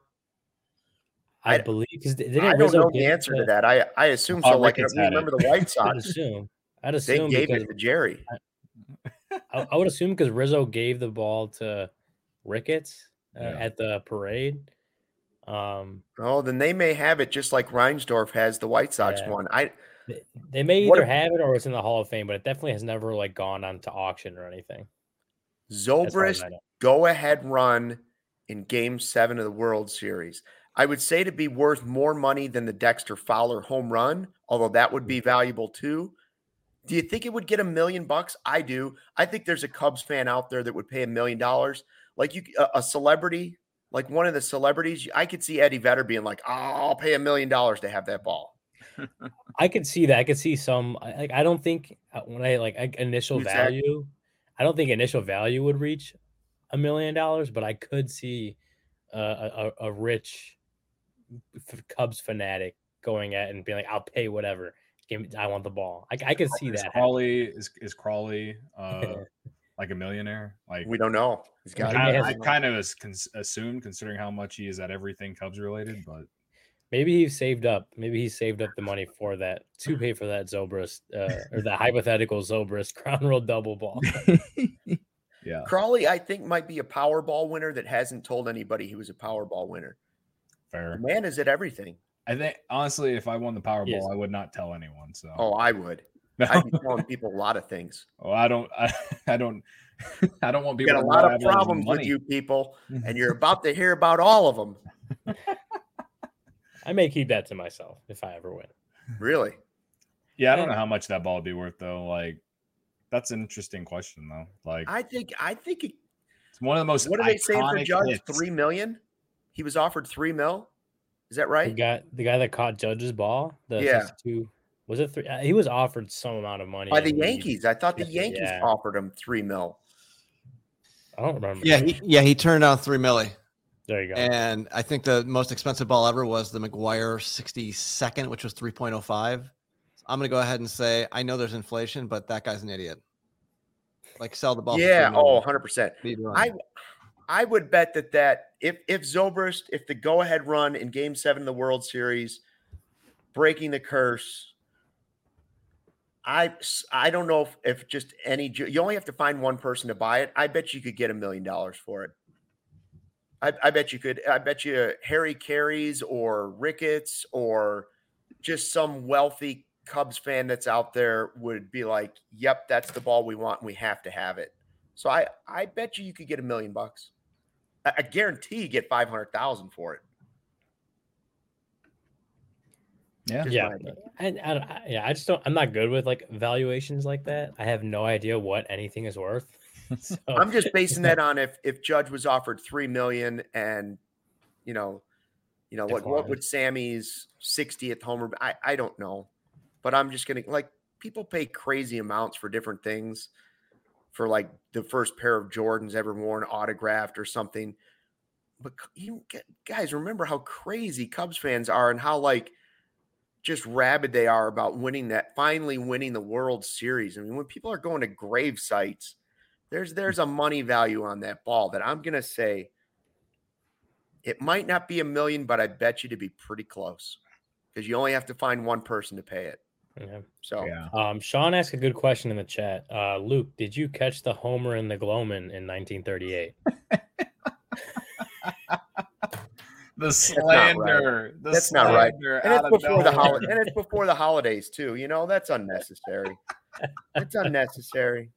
I, I- believe because didn't I don't Rizzo know give the it answer to to- that. I I assume Oh, so. Like Ricketts we had it. remember the White I'd Sox, assume. I'd they assume gave because it to Jerry. I, I would assume because Rizzo gave the ball to Ricketts uh, Yeah. at the parade. Um, Oh, then they may have it just like Reinsdorf has the White Sox Yeah. one. I they, they may What either if- have it or it's in the Hall of Fame, but it definitely has never like gone on to auction or anything. as far as Zobrist I know. go ahead run in Game Seven of the World Series. I would say to be worth more money than the Dexter Fowler home run, although that would be valuable too. Do you think it would get a million bucks? I do. I think there's a Cubs fan out there that would pay a million dollars. Like you, a, a celebrity, like one of the celebrities. I could see Eddie Vedder being like, oh, "I'll pay a million dollars to have that ball." I could see that. I could see some. I- Like I don't think uh, when I like I- initial Exactly. value, I don't think initial value would reach a million dollars, but I could see uh, a, a a rich f- Cubs fanatic going at it and being like, "I'll pay whatever. Give me, I want the ball." I, I could see Is that. happening. Crawley is is Crawley uh, like a millionaire? Like We don't know. He's got. He may I, have- I kind of as cons- assumed considering how much he is at everything Cubs related, but Maybe he saved up. Maybe he saved up the money for that to pay for that Zobrist uh, or the hypothetical Zobrist ground rule double ball. yeah, Crawley, I think, might be a Powerball winner that hasn't told anybody he was a Powerball winner. The fair. man is at everything. I think honestly, if I won the Yes. Powerball, I would not tell anyone. So Oh, I would. I'd be telling people a lot of things. oh, I don't, I, I don't, I don't want We people. got a to lot know I of have all this problems with money. you people, and you're about to hear about all of them. I may keep that to myself if I ever win. Really? Yeah, I don't know how much that ball would be worth though. Like, that's an interesting question though. Like, I think. I think. It, it's one of the most. what are they saying for iconic Judge? hits. Three million. He was offered three mil. Is that The right? guy, the guy that caught Judge's ball, the Yeah. sixty-two, was it three? uh, He was offered some amount of money By the and he- Yankees. I thought the Yeah. Yankees offered him three mil. I don't remember. Yeah, he, yeah, he turned down three milli, There you go. and I think the most expensive ball ever was the McGuire sixty-second, which was three point oh five. I'm gonna go ahead and say I know there's inflation, but that guy's an idiot. Like sell the ball. for Yeah. three Oh, million. one hundred percent. Lead run. I I would bet that that if if Zobrist, if the go ahead run in Game Seven of the World Series, breaking the curse, I I don't know if, if just any ju- you only have to find one person to buy it. I bet you could get a million dollars for it. I, I bet you could. I bet you Harry Carey's or Ricketts or just some wealthy Cubs fan that's out there would be like, "Yep, that's the ball we want, and we have to have it." So I I bet you you could get a million bucks. I, I guarantee you get five hundred thousand for it. Yeah. Just yeah, my opinion. and I, I, yeah, I just don't. I'm not good with like valuations like that. I have no idea what anything is worth. So I'm just basing that on if if Judge was offered three million and you know, you know what what Declined. would Sammy's sixtieth homer? I I don't know, but I'm just gonna like people pay crazy amounts for different things, for like the first pair of Jordans ever worn autographed or something. But you guys remember how crazy Cubs fans are and how like just rabid they are about winning that, finally winning the World Series. I mean, when people are going to grave sites, there's there's a money value on that ball that I'm gonna say it might not be a million, but I bet you to be pretty close because you only have to find one person to pay it. yeah. So Yeah. Um, Sean asked a good question in the chat. Uh, Luke, did you catch the homer in the Gloman in nineteen thirty-eight? The slander. The That's not right. slander And it's out of before the nowhere. holiday, and it's before the holidays too. You know, that's unnecessary. It's unnecessary.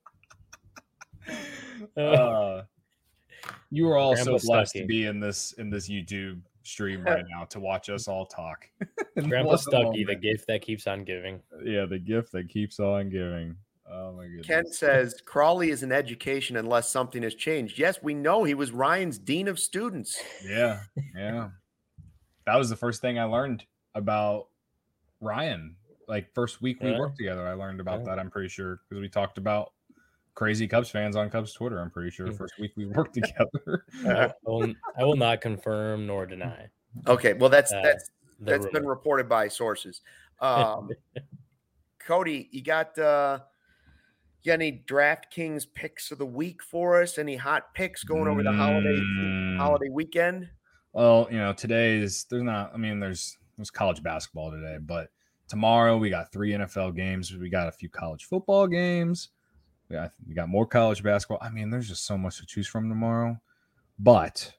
Uh, you are all Grandpa so blessed Stucky. to be in this in this YouTube stream right now to watch us all talk. Grandpa What a Stucky, the moment. gift that keeps on giving. Yeah, the gift that keeps on giving. Oh my goodness. Ken says Crawley is an education unless something has changed. Yes, we know he was Ryan's dean of students. Yeah, yeah. That was the first thing I learned about Ryan. Like first week we Yeah. worked together, I learned about Yeah. that. I'm pretty sure because we talked about crazy Cubs fans on Cubs Twitter. I'm pretty sure Mm. first week we worked together. I will, I will not confirm nor deny. Okay, well that's Uh, that's the that's been rumor. reported by sources. Um, Cody, you got uh, you got any DraftKings picks of the week for us? Any hot picks going over the holiday Mm. holiday weekend? Well, you know, today's there's not. I mean, there's there's college basketball today, but tomorrow we got three N F L games. We got a few college football games. We got we got more college basketball. I mean, there's just so much to choose from tomorrow. But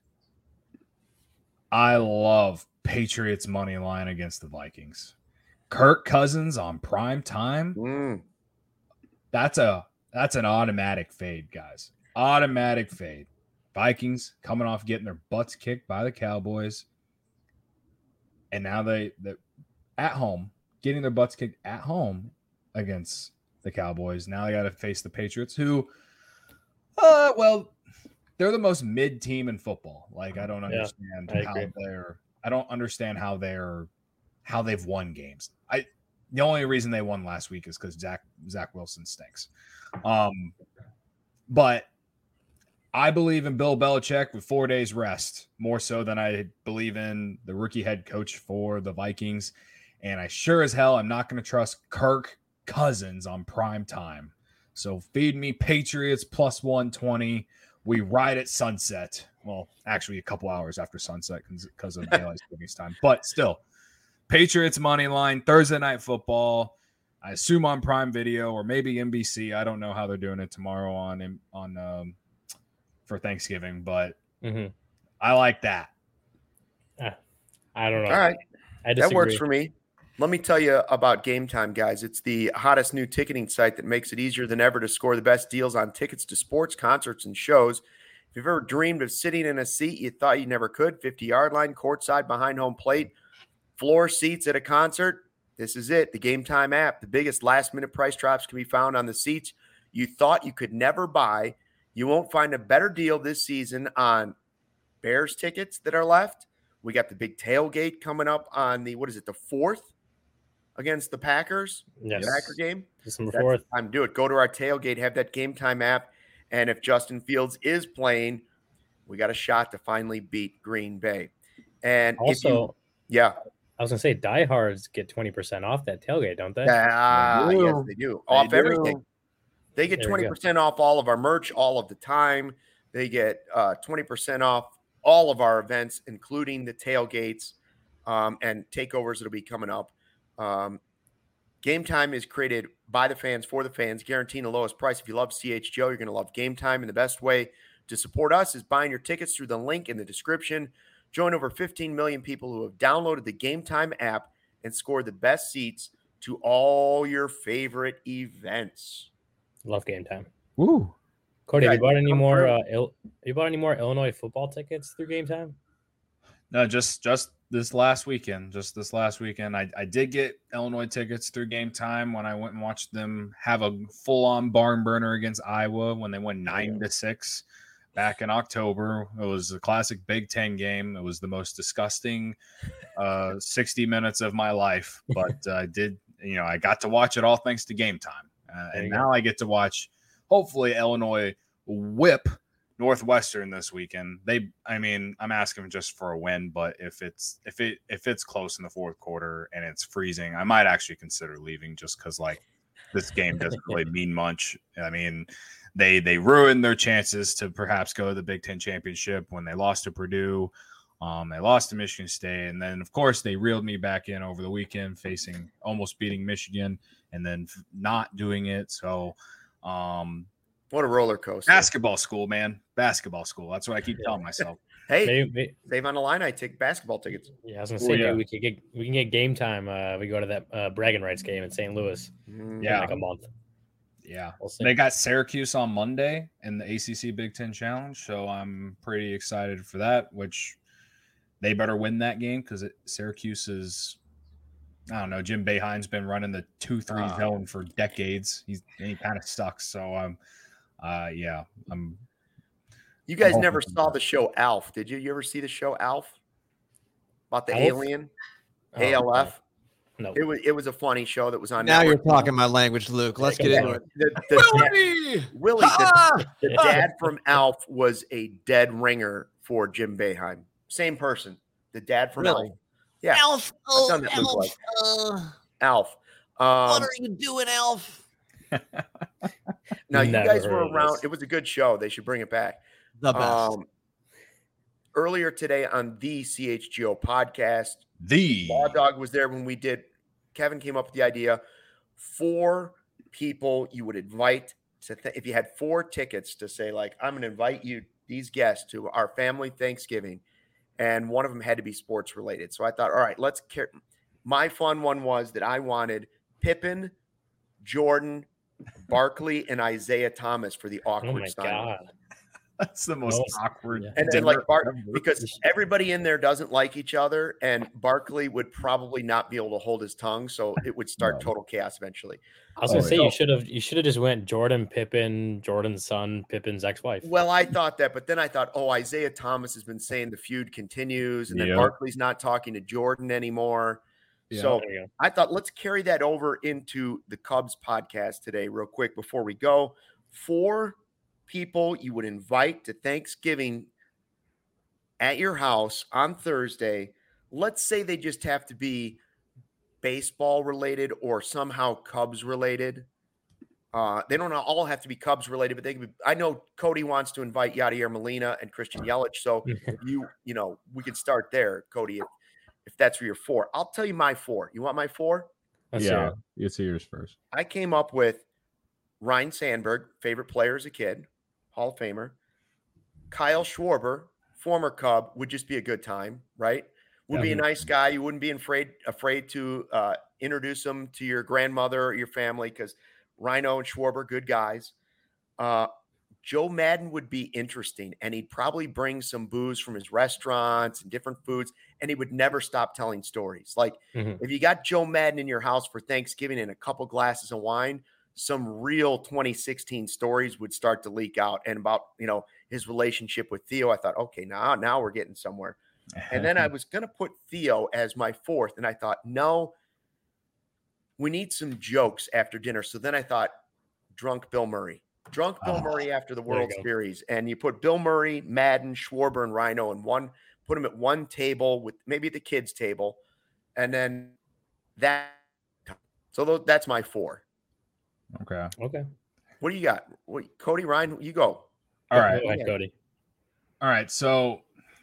I love Patriots money line against the Vikings. Kirk Cousins on prime time. Mm. That's a that's an automatic fade, guys. Automatic fade. Vikings coming off getting their butts kicked by the Cowboys. And now they they at home, getting their butts kicked at home against the Cowboys. Now they got to face the Patriots, who uh well, they're the most mid team in football. Like I don't Yeah, understand I how agree. they're I don't understand how they're how they've won games. I the only reason they won last week is because Zach Zach Wilson stinks. Um, but I believe in Bill Belichick with four days rest more so than I believe in the rookie head coach for the Vikings. And I sure as hell I'm not going to trust Kirk Cousins on prime time. So feed me Patriots plus one twenty. We ride at sunset. Well, actually a couple hours after sunset because of daylight savings time. But still, Patriots money line, Thursday night football. I assume on Prime Video or maybe N B C. I don't know how they're doing it tomorrow on on um, for Thanksgiving, but Mhm. I like that. I don't know. All right, I that disagree. works for me. Let me tell you about Game Time, guys. It's the hottest new ticketing site that makes it easier than ever to score the best deals on tickets to sports, concerts, and shows. If you've ever dreamed of sitting in a seat you thought you never could, fifty-yard line, courtside, behind home plate, floor seats at a concert, this is it. The Game Time app. The biggest last-minute price drops can be found on the seats you thought you could never buy. You won't find a better deal this season on Bears tickets that are left. We got the big tailgate coming up on the, what is it, the fourth against the Packers? Yes. The Packer game? December That's fourth. the time to do it. Go to our tailgate, have that Game Time app, and if Justin Fields is playing, we got a shot to finally beat Green Bay. And if Also, you, yeah, I was gonna say diehards get twenty percent off that tailgate, don't they? ah, They do. yes, they do. They Off do. everything. They get There you twenty go. percent off all of our merch all of the time. They get uh, twenty percent off all of our events, including the tailgates um, and takeovers that'll be coming up. Um, Game Time is created by the fans for the fans, guaranteeing the lowest price. If you love C H G O, you're going to love Game Time. And the best way to support us is buying your tickets through the link in the description. Join over fifteen million people who have downloaded the Game Time app and scored the best seats to all your favorite events. Love Game Time. Woo. Cody, Yeah, have you bought any come more? through. Uh, Il- have you bought any more Illinois football tickets through Game Time? No, just just this last weekend. Just this last weekend. I, I did get Illinois tickets through Game Time when I went and watched them have a full-on barn burner against Iowa when they won nine to six back in October. It was a classic Big Ten game. It was the most disgusting uh, sixty minutes of my life, but I did, you know, I got to watch it all thanks to Game Time. Uh, There and you now go. I get to watch, hopefully, Illinois whip Northwestern this weekend. They, I mean, I'm asking just for a win, but if it's if it if it's close in the fourth quarter and it's freezing, I might actually consider leaving just because like this game doesn't really mean much. I mean, they they ruined their chances to perhaps go to the Big Ten championship when they lost to Purdue. Um, they lost to Michigan State, and then of course they reeled me back in over the weekend, facing almost beating Michigan, and then f- not doing it. So. Um, What a roller coaster. Basketball school, man. Basketball school. That's what I keep telling myself. Hey, Maybe, maybe, save on the line. I take basketball tickets. yeah, I was gonna Oh, say yeah. maybe we could get we can get game time. Uh, we go to that uh, bragging rights game in Saint Louis Mm, in Yeah. like a month. Yeah. We'll see. They got Syracuse on Monday in the A C C Big Ten Challenge, so I'm pretty excited for that, which they better win that game because Syracuse is, I don't know, Jim Boeheim's been running the two three Ah. zone for decades. He's and he kind of sucks. So um uh yeah, I'm You guys Oh, never my saw God. the show Alf, did you? You ever see the show Alf? About the Alf? alien? Oh, A L F? No. It was it was a funny show that was on Now you're network. talking my language, Luke. Let's Yeah, get come into on. it. The, the, dad, Willie! Willie, the, Ah! the dad from Alf was a dead ringer for Jim Boeheim. Same person. The dad from Really? Alf. Yeah, Elf, I've oh, done that look Elf, like. uh, Alf. what Um, are you doing, Elf? now you Never guys heard were of around. this. It was a good show. They should bring it back. The best. Um, earlier today on the C H G O podcast, the Law Dog was there when we did. Kevin came up with the idea. Four people you would invite to, th- if you had four tickets to say, like, I'm going to invite you, these guests, to our family Thanksgiving, and one of them had to be sports related. So I thought, all right, let's care. My fun one was that I wanted Pippen, Jordan, Barkley, and Isaiah Thomas for the Oh awkward my sign. god. that's the most Most- awkward. yeah. And then like dinner Bart, ever. because everybody in there doesn't like each other, and Barkley would probably not be able to hold his tongue, so it would start No. total chaos eventually. I was Oh, gonna say yeah. you should have you should have just went Jordan Pippen, Jordan's son, Pippen's ex-wife. Well, I thought that, but then I thought, oh, Isaiah Thomas has been saying the feud continues, and then Yep. Barkley's not talking to Jordan anymore. Yeah. So There you go. I thought let's carry that over into the Cubs podcast today, real quick before we go. Four people you would invite to Thanksgiving at your house on Thursday. Let's say they just have to be baseball related or somehow Cubs related. Uh, they don't all have to be Cubs related, but they can be. I know Cody wants to invite Yadier Molina and Christian Yelich, so you you know we could start there, Cody, if, if that's for your four. I'll tell you my four. You want my four? Let's yeah, hear it. it's yours first. I came up with Ryan Sandberg, favorite player as a kid, Hall of Famer. Kyle Schwarber, former Cub, would just be a good time, right? Would be a nice guy. You wouldn't be afraid afraid to uh, introduce him to your grandmother or your family because Rhino and Schwarber, good guys. Uh, Joe Madden would be interesting, and he'd probably bring some booze from his restaurants and different foods, and he would never stop telling stories. Like Mhm. if you got Joe Madden in your house for Thanksgiving and a couple glasses of wine, some real twenty sixteen stories would start to leak out. And about, you know, his relationship with Theo, I thought, okay, now, now we're getting somewhere. And then I was going to put Theo as my fourth, and I thought, no, we need some jokes after dinner. So then I thought, drunk Bill Murray. Drunk Bill Oh, Murray after the there you World go. Series. And you put Bill Murray, Madden, Schwarber, and Rhino in one, put them at one table with maybe the kids' table. And then that. So tho- that's my four. Okay. Okay. What do you got? What, Cody, Ryan, you go. All right. Go ahead, Yeah. Cody. All right. So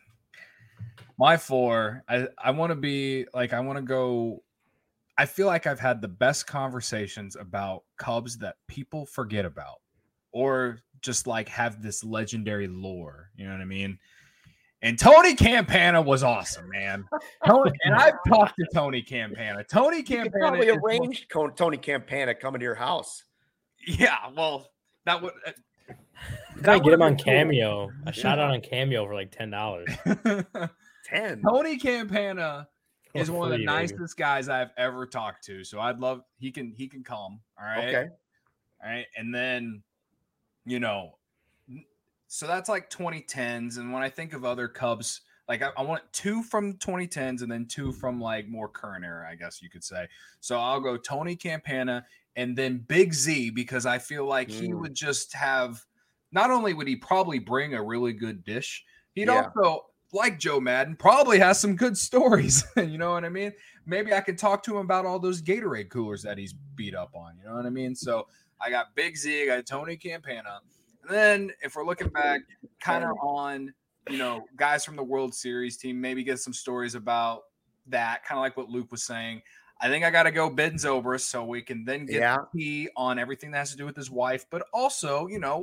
my four, I, I want to be like, I want to go. I feel like I've had the best conversations about Cubs that people forget about or just like have this legendary lore. You know what I mean? And Tony Campana was awesome, man. Tony, and I've talked to Tony Campana. Tony You could Campana probably is one- arrange Co- Tony Campana coming to your house. Yeah, well, that would. You gotta get him on would've been Cameo. A shout out on Cameo for like ten dollars. ten. Tony Campana is For one of the free, baby. nicest guys I've ever talked to. So I'd love he can he can come. All right. Okay. All right. And then, you know, so that's like twenty tens. And when I think of other Cubs, like I, I want two from twenty tens and then two from like more current era, I guess you could say. So I'll go Tony Campana and then Big Z because I feel like he Mm. would just have not only would he probably bring a really good dish, he'd Yeah. also, like Joe Madden, probably has some good stories. You know what I mean? Maybe I can talk to him about all those Gatorade coolers that he's beat up on. You know what I mean? So I got Big Z, I got Tony Campana. And then if we're looking back kind of on, you know, guys from the World Series team, maybe get some stories about that, kind of like what Luke was saying. I think I got to go Ben Zobrist so we can then get Yeah. the key on everything that has to do with his wife, but also, you know, like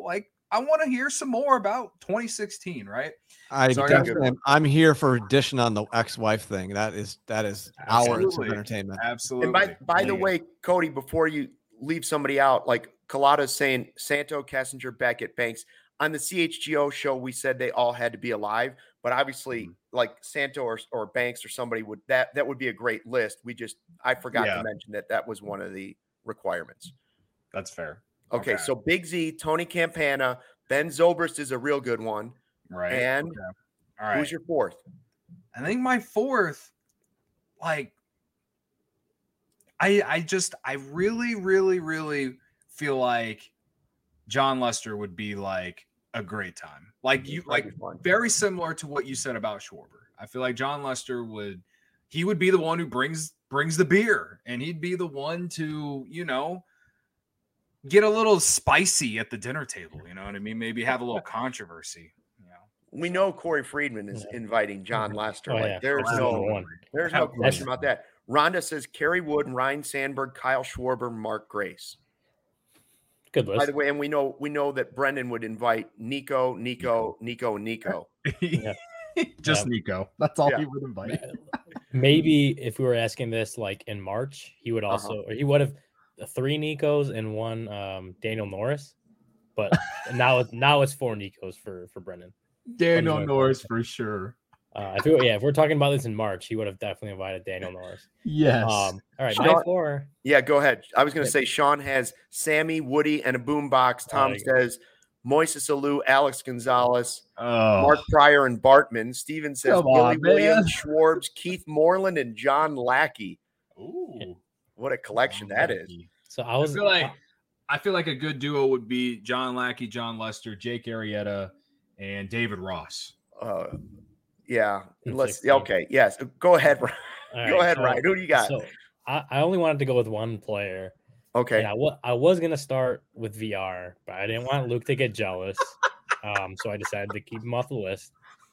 I want to hear some more about twenty sixteen, right? I So I got- definitely, am- I'm here for dishing on the ex-wife thing. That is that is hours of Absolutely. entertainment. Absolutely. And by by the Dig it. way, Cody, before you leave somebody out, like Collada's saying Santo, Kessinger, Beckett, Banks. On the C H G O show, we said they all had to be alive, but obviously, Mm-hmm. like Santo or, or Banks or somebody would that that would be a great list. We just I forgot Yeah. to mention that that was one of the requirements. That's fair. Okay, Okay. so Big Z, Tony Campana, Ben Zobrist is a real good one. Right. And Okay. All right. who's your fourth? I think my fourth, like, I I just I really really really feel like John Lester would be like a great time. Like you like That'd be fun. very similar to what you said about Schwarber. I feel like John Lester would he would be the one who brings brings the beer, and he'd be the one to, you know, get a little spicy at the dinner table. You know what I mean? Maybe have a little controversy. You know, We know Corey Friedman is inviting John Lester. Oh, like yeah. there's That's no number one. there's no Absolutely. question about that. Rhonda says Kerry Wood, Ryan Sandberg, Kyle Schwarber, Mark Grace. Good By list. the way, and we know we know that Brendan would invite Nico, Nico, Nico, Nico. Yeah. Just Yeah. Nico. That's all Yeah. he would invite. Maybe if we were asking this like in March, he would Uh-huh. also or he would have three Nikos and one um, Daniel Norris. But now it's now it's four Nikos for for Brendan. Daniel Norris Norris for sure. Uh, if we, yeah, if we're talking about this in March, he would have definitely invited Daniel Norris. Yes. Um, all right, Sean- my four. Yeah, go ahead. I was going to Yeah. say Sean has Sammy, Woody, and a boombox. Tom there you go. says Moises Alou, Alex Gonzalez, oh, Mark Pryor, and Bartman. Steven says Come Billy on, man. Williams, Schwarbs, Keith Moreland, and John Lackey. Ooh. What a collection that is. So I I was feel like I feel like a good duo would be John Lackey, John Lester, Jake Arrieta, and David Ross. Uh, yeah. In Let's. sixteen. Okay. Yes. Go ahead. Ryan. all Go right, ahead, so- Ryan. Who do you got? So I, I only wanted to go with one player. Okay. And I wa- I was gonna start with V R, but I didn't want Luke to get jealous. Um, so I decided to keep him off the list.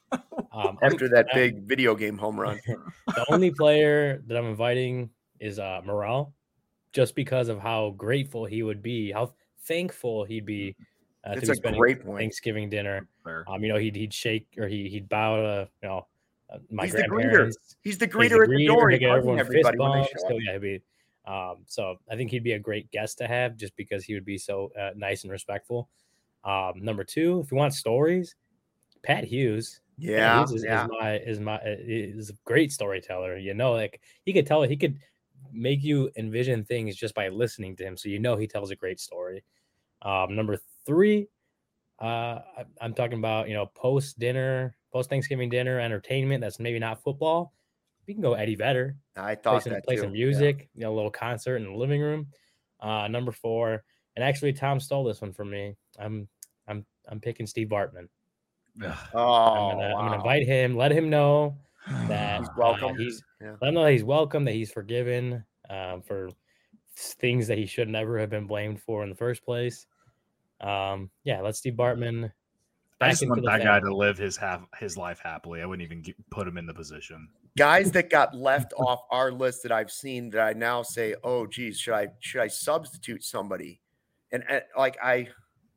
Um, After that um, big video game home run. the only player that I'm inviting is uh, Morel, just because of how grateful he would be, how thankful he'd be uh, to It's be a spending great point. Thanksgiving dinner. Fair. Um, you know, he'd he'd shake or he he'd bow to you know uh, my He's the greeter. grandparents. He's the He's greeter at the door. he'd He's get hugging everyone fist everybody when they bumps. show So up. yeah, he'd be. Um, so I think he'd be a great guest to have, just because he would be so uh, nice and respectful. Um, number two, if you want stories, Pat Hughes. Pat Yeah. Hughes is, Yeah. is my is my is a great storyteller. You know, like he could tell he could make you envision things just by listening to him. So you know he tells a great story. Um, number three, uh, I, I'm talking about you know post dinner, post Thanksgiving dinner entertainment. That's maybe not football. We can go Eddie Vedder. I Play thought some, that play too. some Yeah. music. You know, a little concert in the living room. Uh, number four, and actually Tom stole this one from me. I'm I'm I'm picking Steve Bartman. Oh, I'm gonna, I'm gonna wow. invite him, let him know that He's uh, welcome. he's Yeah. let him know that he's welcome, that he's forgiven um, for things that he should never have been blamed for in the first place. Um, yeah, let's Steve Bartman I back just into want the that guy family. to live his half his life happily. I wouldn't even get, put him in the position. Guys that got left off our list that I've seen that I now say, oh, geez, should I should I substitute somebody? And, and like I,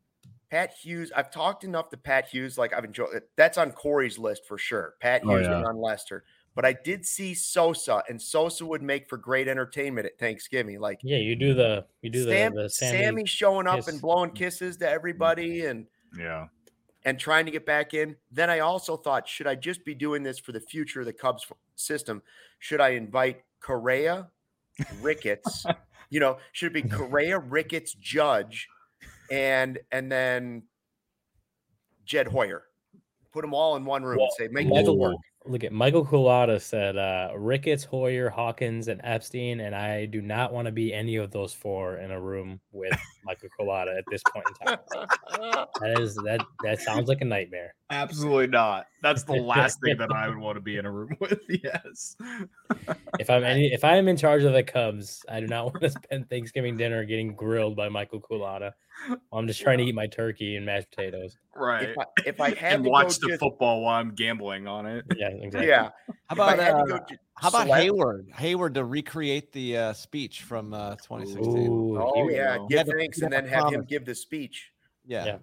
Pat Hughes, I've talked enough to Pat Hughes. Like I've enjoyed it. That's on Corey's list for sure. Pat Oh, Hughes yeah. and on Lester. But I did see Sosa, and Sosa would make for great entertainment at Thanksgiving. Like Yeah, you do the you do Sam, the, the Sammy, Sammy showing up kiss. and blowing kisses to everybody and Yeah. and trying to get back in. Then I also thought, should I just be doing this for the future of the Cubs system? Should I invite Correa, Ricketts? You know, should it be Correa, Ricketts, Judge, and and then Jed Hoyer? Put them all in one room Well, and say, make Michael- this work. Look at Michael Culata said uh, Ricketts, Hoyer, Hawkins, and Epstein, and I do not want to be any of those four in a room with Michael Culata at this point in time. That is that that sounds like a nightmare. Absolutely not. That's the last thing that I would want to be in a room with. Yes. If I'm any, if I am in charge of the Cubs, I do not want to spend Thanksgiving dinner getting grilled by Michael Culata. I'm just trying to eat my turkey and mashed potatoes. Right. If I, if I had And to watch go the just, football while I'm gambling on it. Yeah, exactly. yeah. How If I about had to uh, go ju- how about select- Hayward? Hayward to recreate the uh, speech from uh, twenty sixteen. Ooh, Oh he- yeah, He give had to- thanks he and had then to have him promise. give the speech. Yeah. Yeah.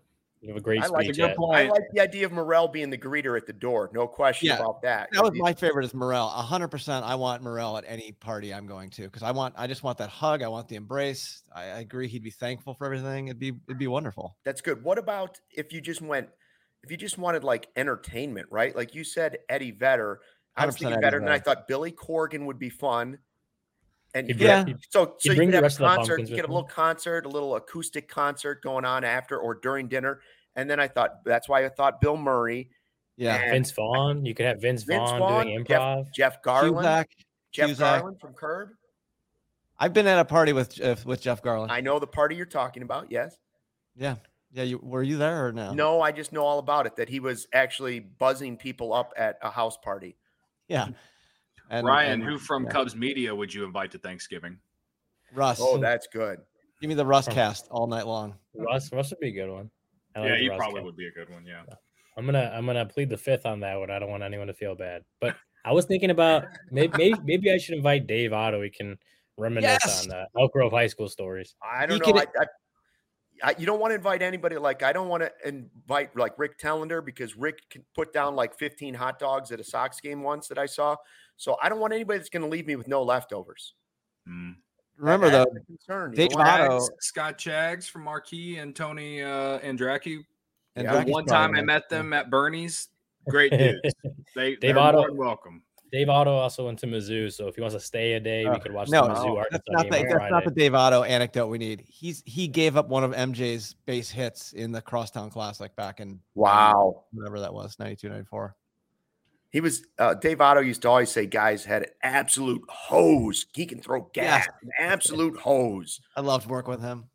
You have a great I like speech. a good Ed. point. I like the idea of Morrell being the greeter at the door. No question Yeah, about that. That was my favorite is Morel. A hundred percent. I want Morel at any party I'm going to because I want. I just want that hug. I want the embrace. I, I agree. He'd be thankful for everything. It'd be. It'd be wonderful. That's good. What about if you just went, if you just wanted like entertainment, right? Like you said, Eddie Vedder. I was thinking Eddie Vedder, and then I Vedder. thought Billy Corgan would be fun. And He'd yeah, bring- so so he'd you bring could the have a rest of the concert, Pumpkins you get a with little concert, a little acoustic concert going on after or during dinner. And then I thought that's why I thought Bill Murray, Yeah. and Vince Vaughn. You could have Vince, Vince Vaughn, Vaughn, doing Jeff, improv. Jeff Garland, Cusack. Jeff Cusack. Garland from Curb. I've been at a party with uh, with Jeff Garland. I know the party you're talking about. Yes. yeah. Yeah. You were you there or no? No, I just know all about it. That he was actually buzzing people up at a house party. Yeah. And, Ryan, and- who from yeah. Cubs Media would you invite to Thanksgiving? Russ. Oh, that's good. Give me the Russ cast all night long. Russ, Russ would be a good one. I like Yeah, the he Russ probably kid. would be a good one. Yeah. I'm gonna I'm gonna plead the fifth on that one. I don't want anyone to feel bad. But I was thinking about maybe maybe, maybe I should invite Dave Otto. We can reminisce Yes! on the Elk Grove High School stories. I don't He know. can- I, I, I, you don't want to invite anybody like I don't want to invite like Rick Tellender because Rick can put down like fifteen hot dogs at a Sox game once that I saw. So I don't want anybody that's going to leave me with no leftovers. Mm. Remember That- though, that's a concern. You Dave don't wanna- Otto- Chags, Scott Chags from Marquee and Tony uh, Andracki. and Yeah, The Jackie's one time I probably- met them at Bernie's. Great dudes. They, Dave they're Otto- more than welcome. Dave Otto also went to Mizzou, so if he wants to stay a day, Uh, we could watch no, the Mizzou no, Arkansas that's not game the on that's not the Friday. Dave Otto anecdote we need. He's he gave up one of M J's base hits in the Crosstown Classic back in Wow. whatever that was, ninety-two, ninety-four. He was uh, Dave Otto used to always say guys had an absolute hose. He can throw gas, an absolute hose. I loved working with him.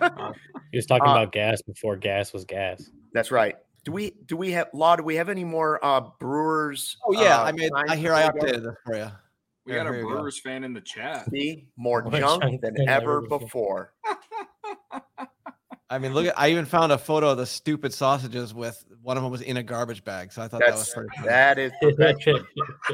He was talking Uh, about gas before gas was gas. That's right. Do we do we have Law? Do we have any more uh, Brewers? Oh yeah, uh, I made. I signs hear I before we go? updated this for you. We Here- got a here you go. Brewers fan in the chat. See, more More junk junk than than ever ever before. I mean, look at. I even found a photo of the stupid sausages with one of them was in a garbage bag. So I thought that was That's pretty cool. that is perfection.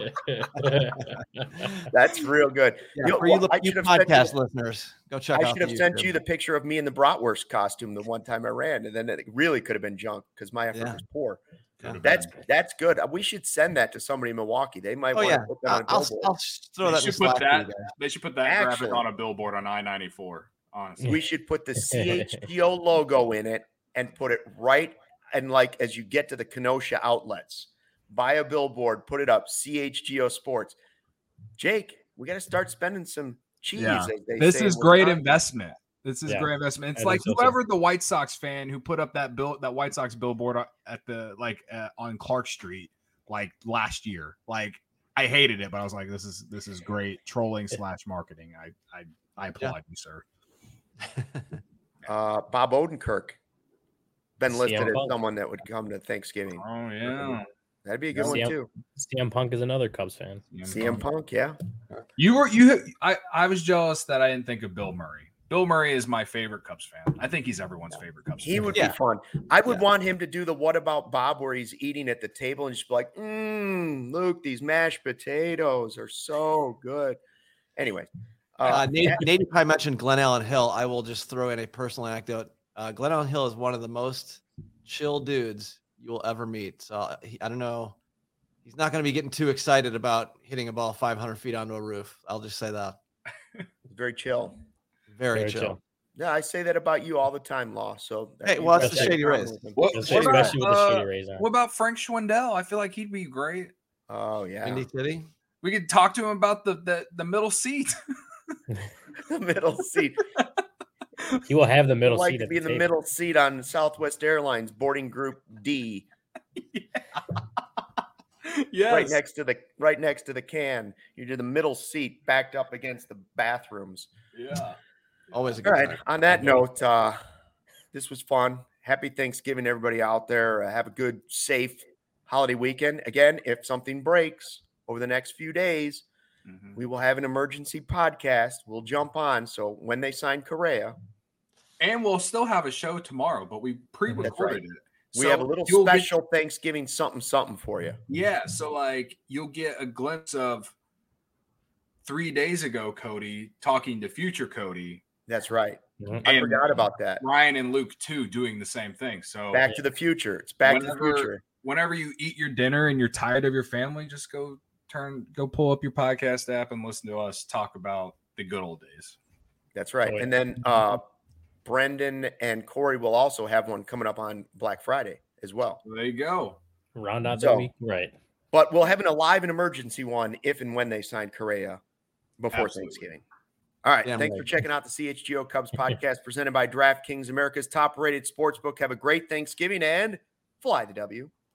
That's real good. Yeah, You know, for you, well, I you should have sent podcast you- listeners, go check I out. should have the sent YouTube. you the picture of me in the bratwurst costume the one time I ran, and then it really could have been junk because my effort Yeah. was poor. Yeah. That's that's good. We should send that to somebody in Milwaukee. They might Oh want yeah, to put that I'll, on a I'll, billboard. I'll throw They that. in should the put Slack for you that. guys. They should put that Actually- graphic on a billboard on I ninety-four. Honestly, We should put the C H G O logo in it and put it right and like as you get to the Kenosha outlets, buy a billboard, put it up, C H G O Sports. Jake, we got to start spending some cheese. Yeah. as they This say is in great Wisconsin. investment. This is Yeah, great investment. It's I like think so, too. whoever the White Sox fan who put up that bill, that White Sox billboard at the like uh, on Clark Street like last year. Like I hated it, but I was like, this is this is great trolling slash marketing. I I I applaud you, sir. Uh, Bob Odenkirk been C M listed as Punk. someone that would come to Thanksgiving. oh yeah. That'd be a good C M one too. C M Punk is another Cubs fan. C M Punk, yeah. You were you. I I was jealous that I didn't think of Bill Murray. Bill Murray is my favorite Cubs fan. I think he's everyone's favorite Cubs He fan. would Yeah. be fun. I would Yeah. want him to do the "What About Bob" where he's eating at the table and just be like, mm, "Luke, these mashed potatoes are so good." Anyway, uh, Uh, Nate, Nate probably mentioned Glenn Allen Hill. I will just throw in a personal anecdote. Uh, Glenn Allen Hill is one of the most chill dudes you will ever meet. So uh, he, I don't know. He's not going to be getting too excited about hitting a ball five hundred feet onto a roof. I'll just say that. very chill. Very, Very chill. chill. Yeah, I say that about you all the time, Law. So that Hey, means well, that's that's the in Shady common Rays. with him. What, Especially what about, especially with the uh, shitty Rays on. what about Frank Schwindel? I feel like he'd be great. Oh yeah, Windy City. We could talk to him about the the, the middle seat. the middle seat. He will have the I'd middle like seat to at be the in the table. middle seat on Southwest Airlines boarding group D, Yes. right next to the right next to the can. You're in the middle seat, backed up against the bathrooms. Yeah. Always a All good right. time. On that note, uh, this was fun. Happy Thanksgiving, everybody out there. Uh, have a good, safe holiday weekend. Again, if something breaks over the next few days, Mhm. we will have an emergency podcast. We'll jump on. So when they sign Correa, And we'll still have a show tomorrow, but we pre-recorded it. we So have a little you'll get- special Thanksgiving something something for you. yeah, so like you'll get a glimpse of three days ago Cody talking to future Cody That's right. Mhm. I And forgot about that. Ryan and Luke too doing the same thing. So Back to the future. It's back to the Whenever- future. whenever you eat your dinner and you're tired of your family, just go turn, go pull up your podcast app and listen to us talk about the good old days. That's right. Oh, yeah. And then uh, Brendan and Corey will also have one coming up on Black Friday as well. So there you go. Round out So- that week, right? But we'll have an alive and emergency one if and when they sign Correa before Absolutely. Thanksgiving. All right. Damn thanks right. for checking out the C H G O Cubs podcast presented by DraftKings, America's top rated sportsbook. Have a great Thanksgiving and fly the W.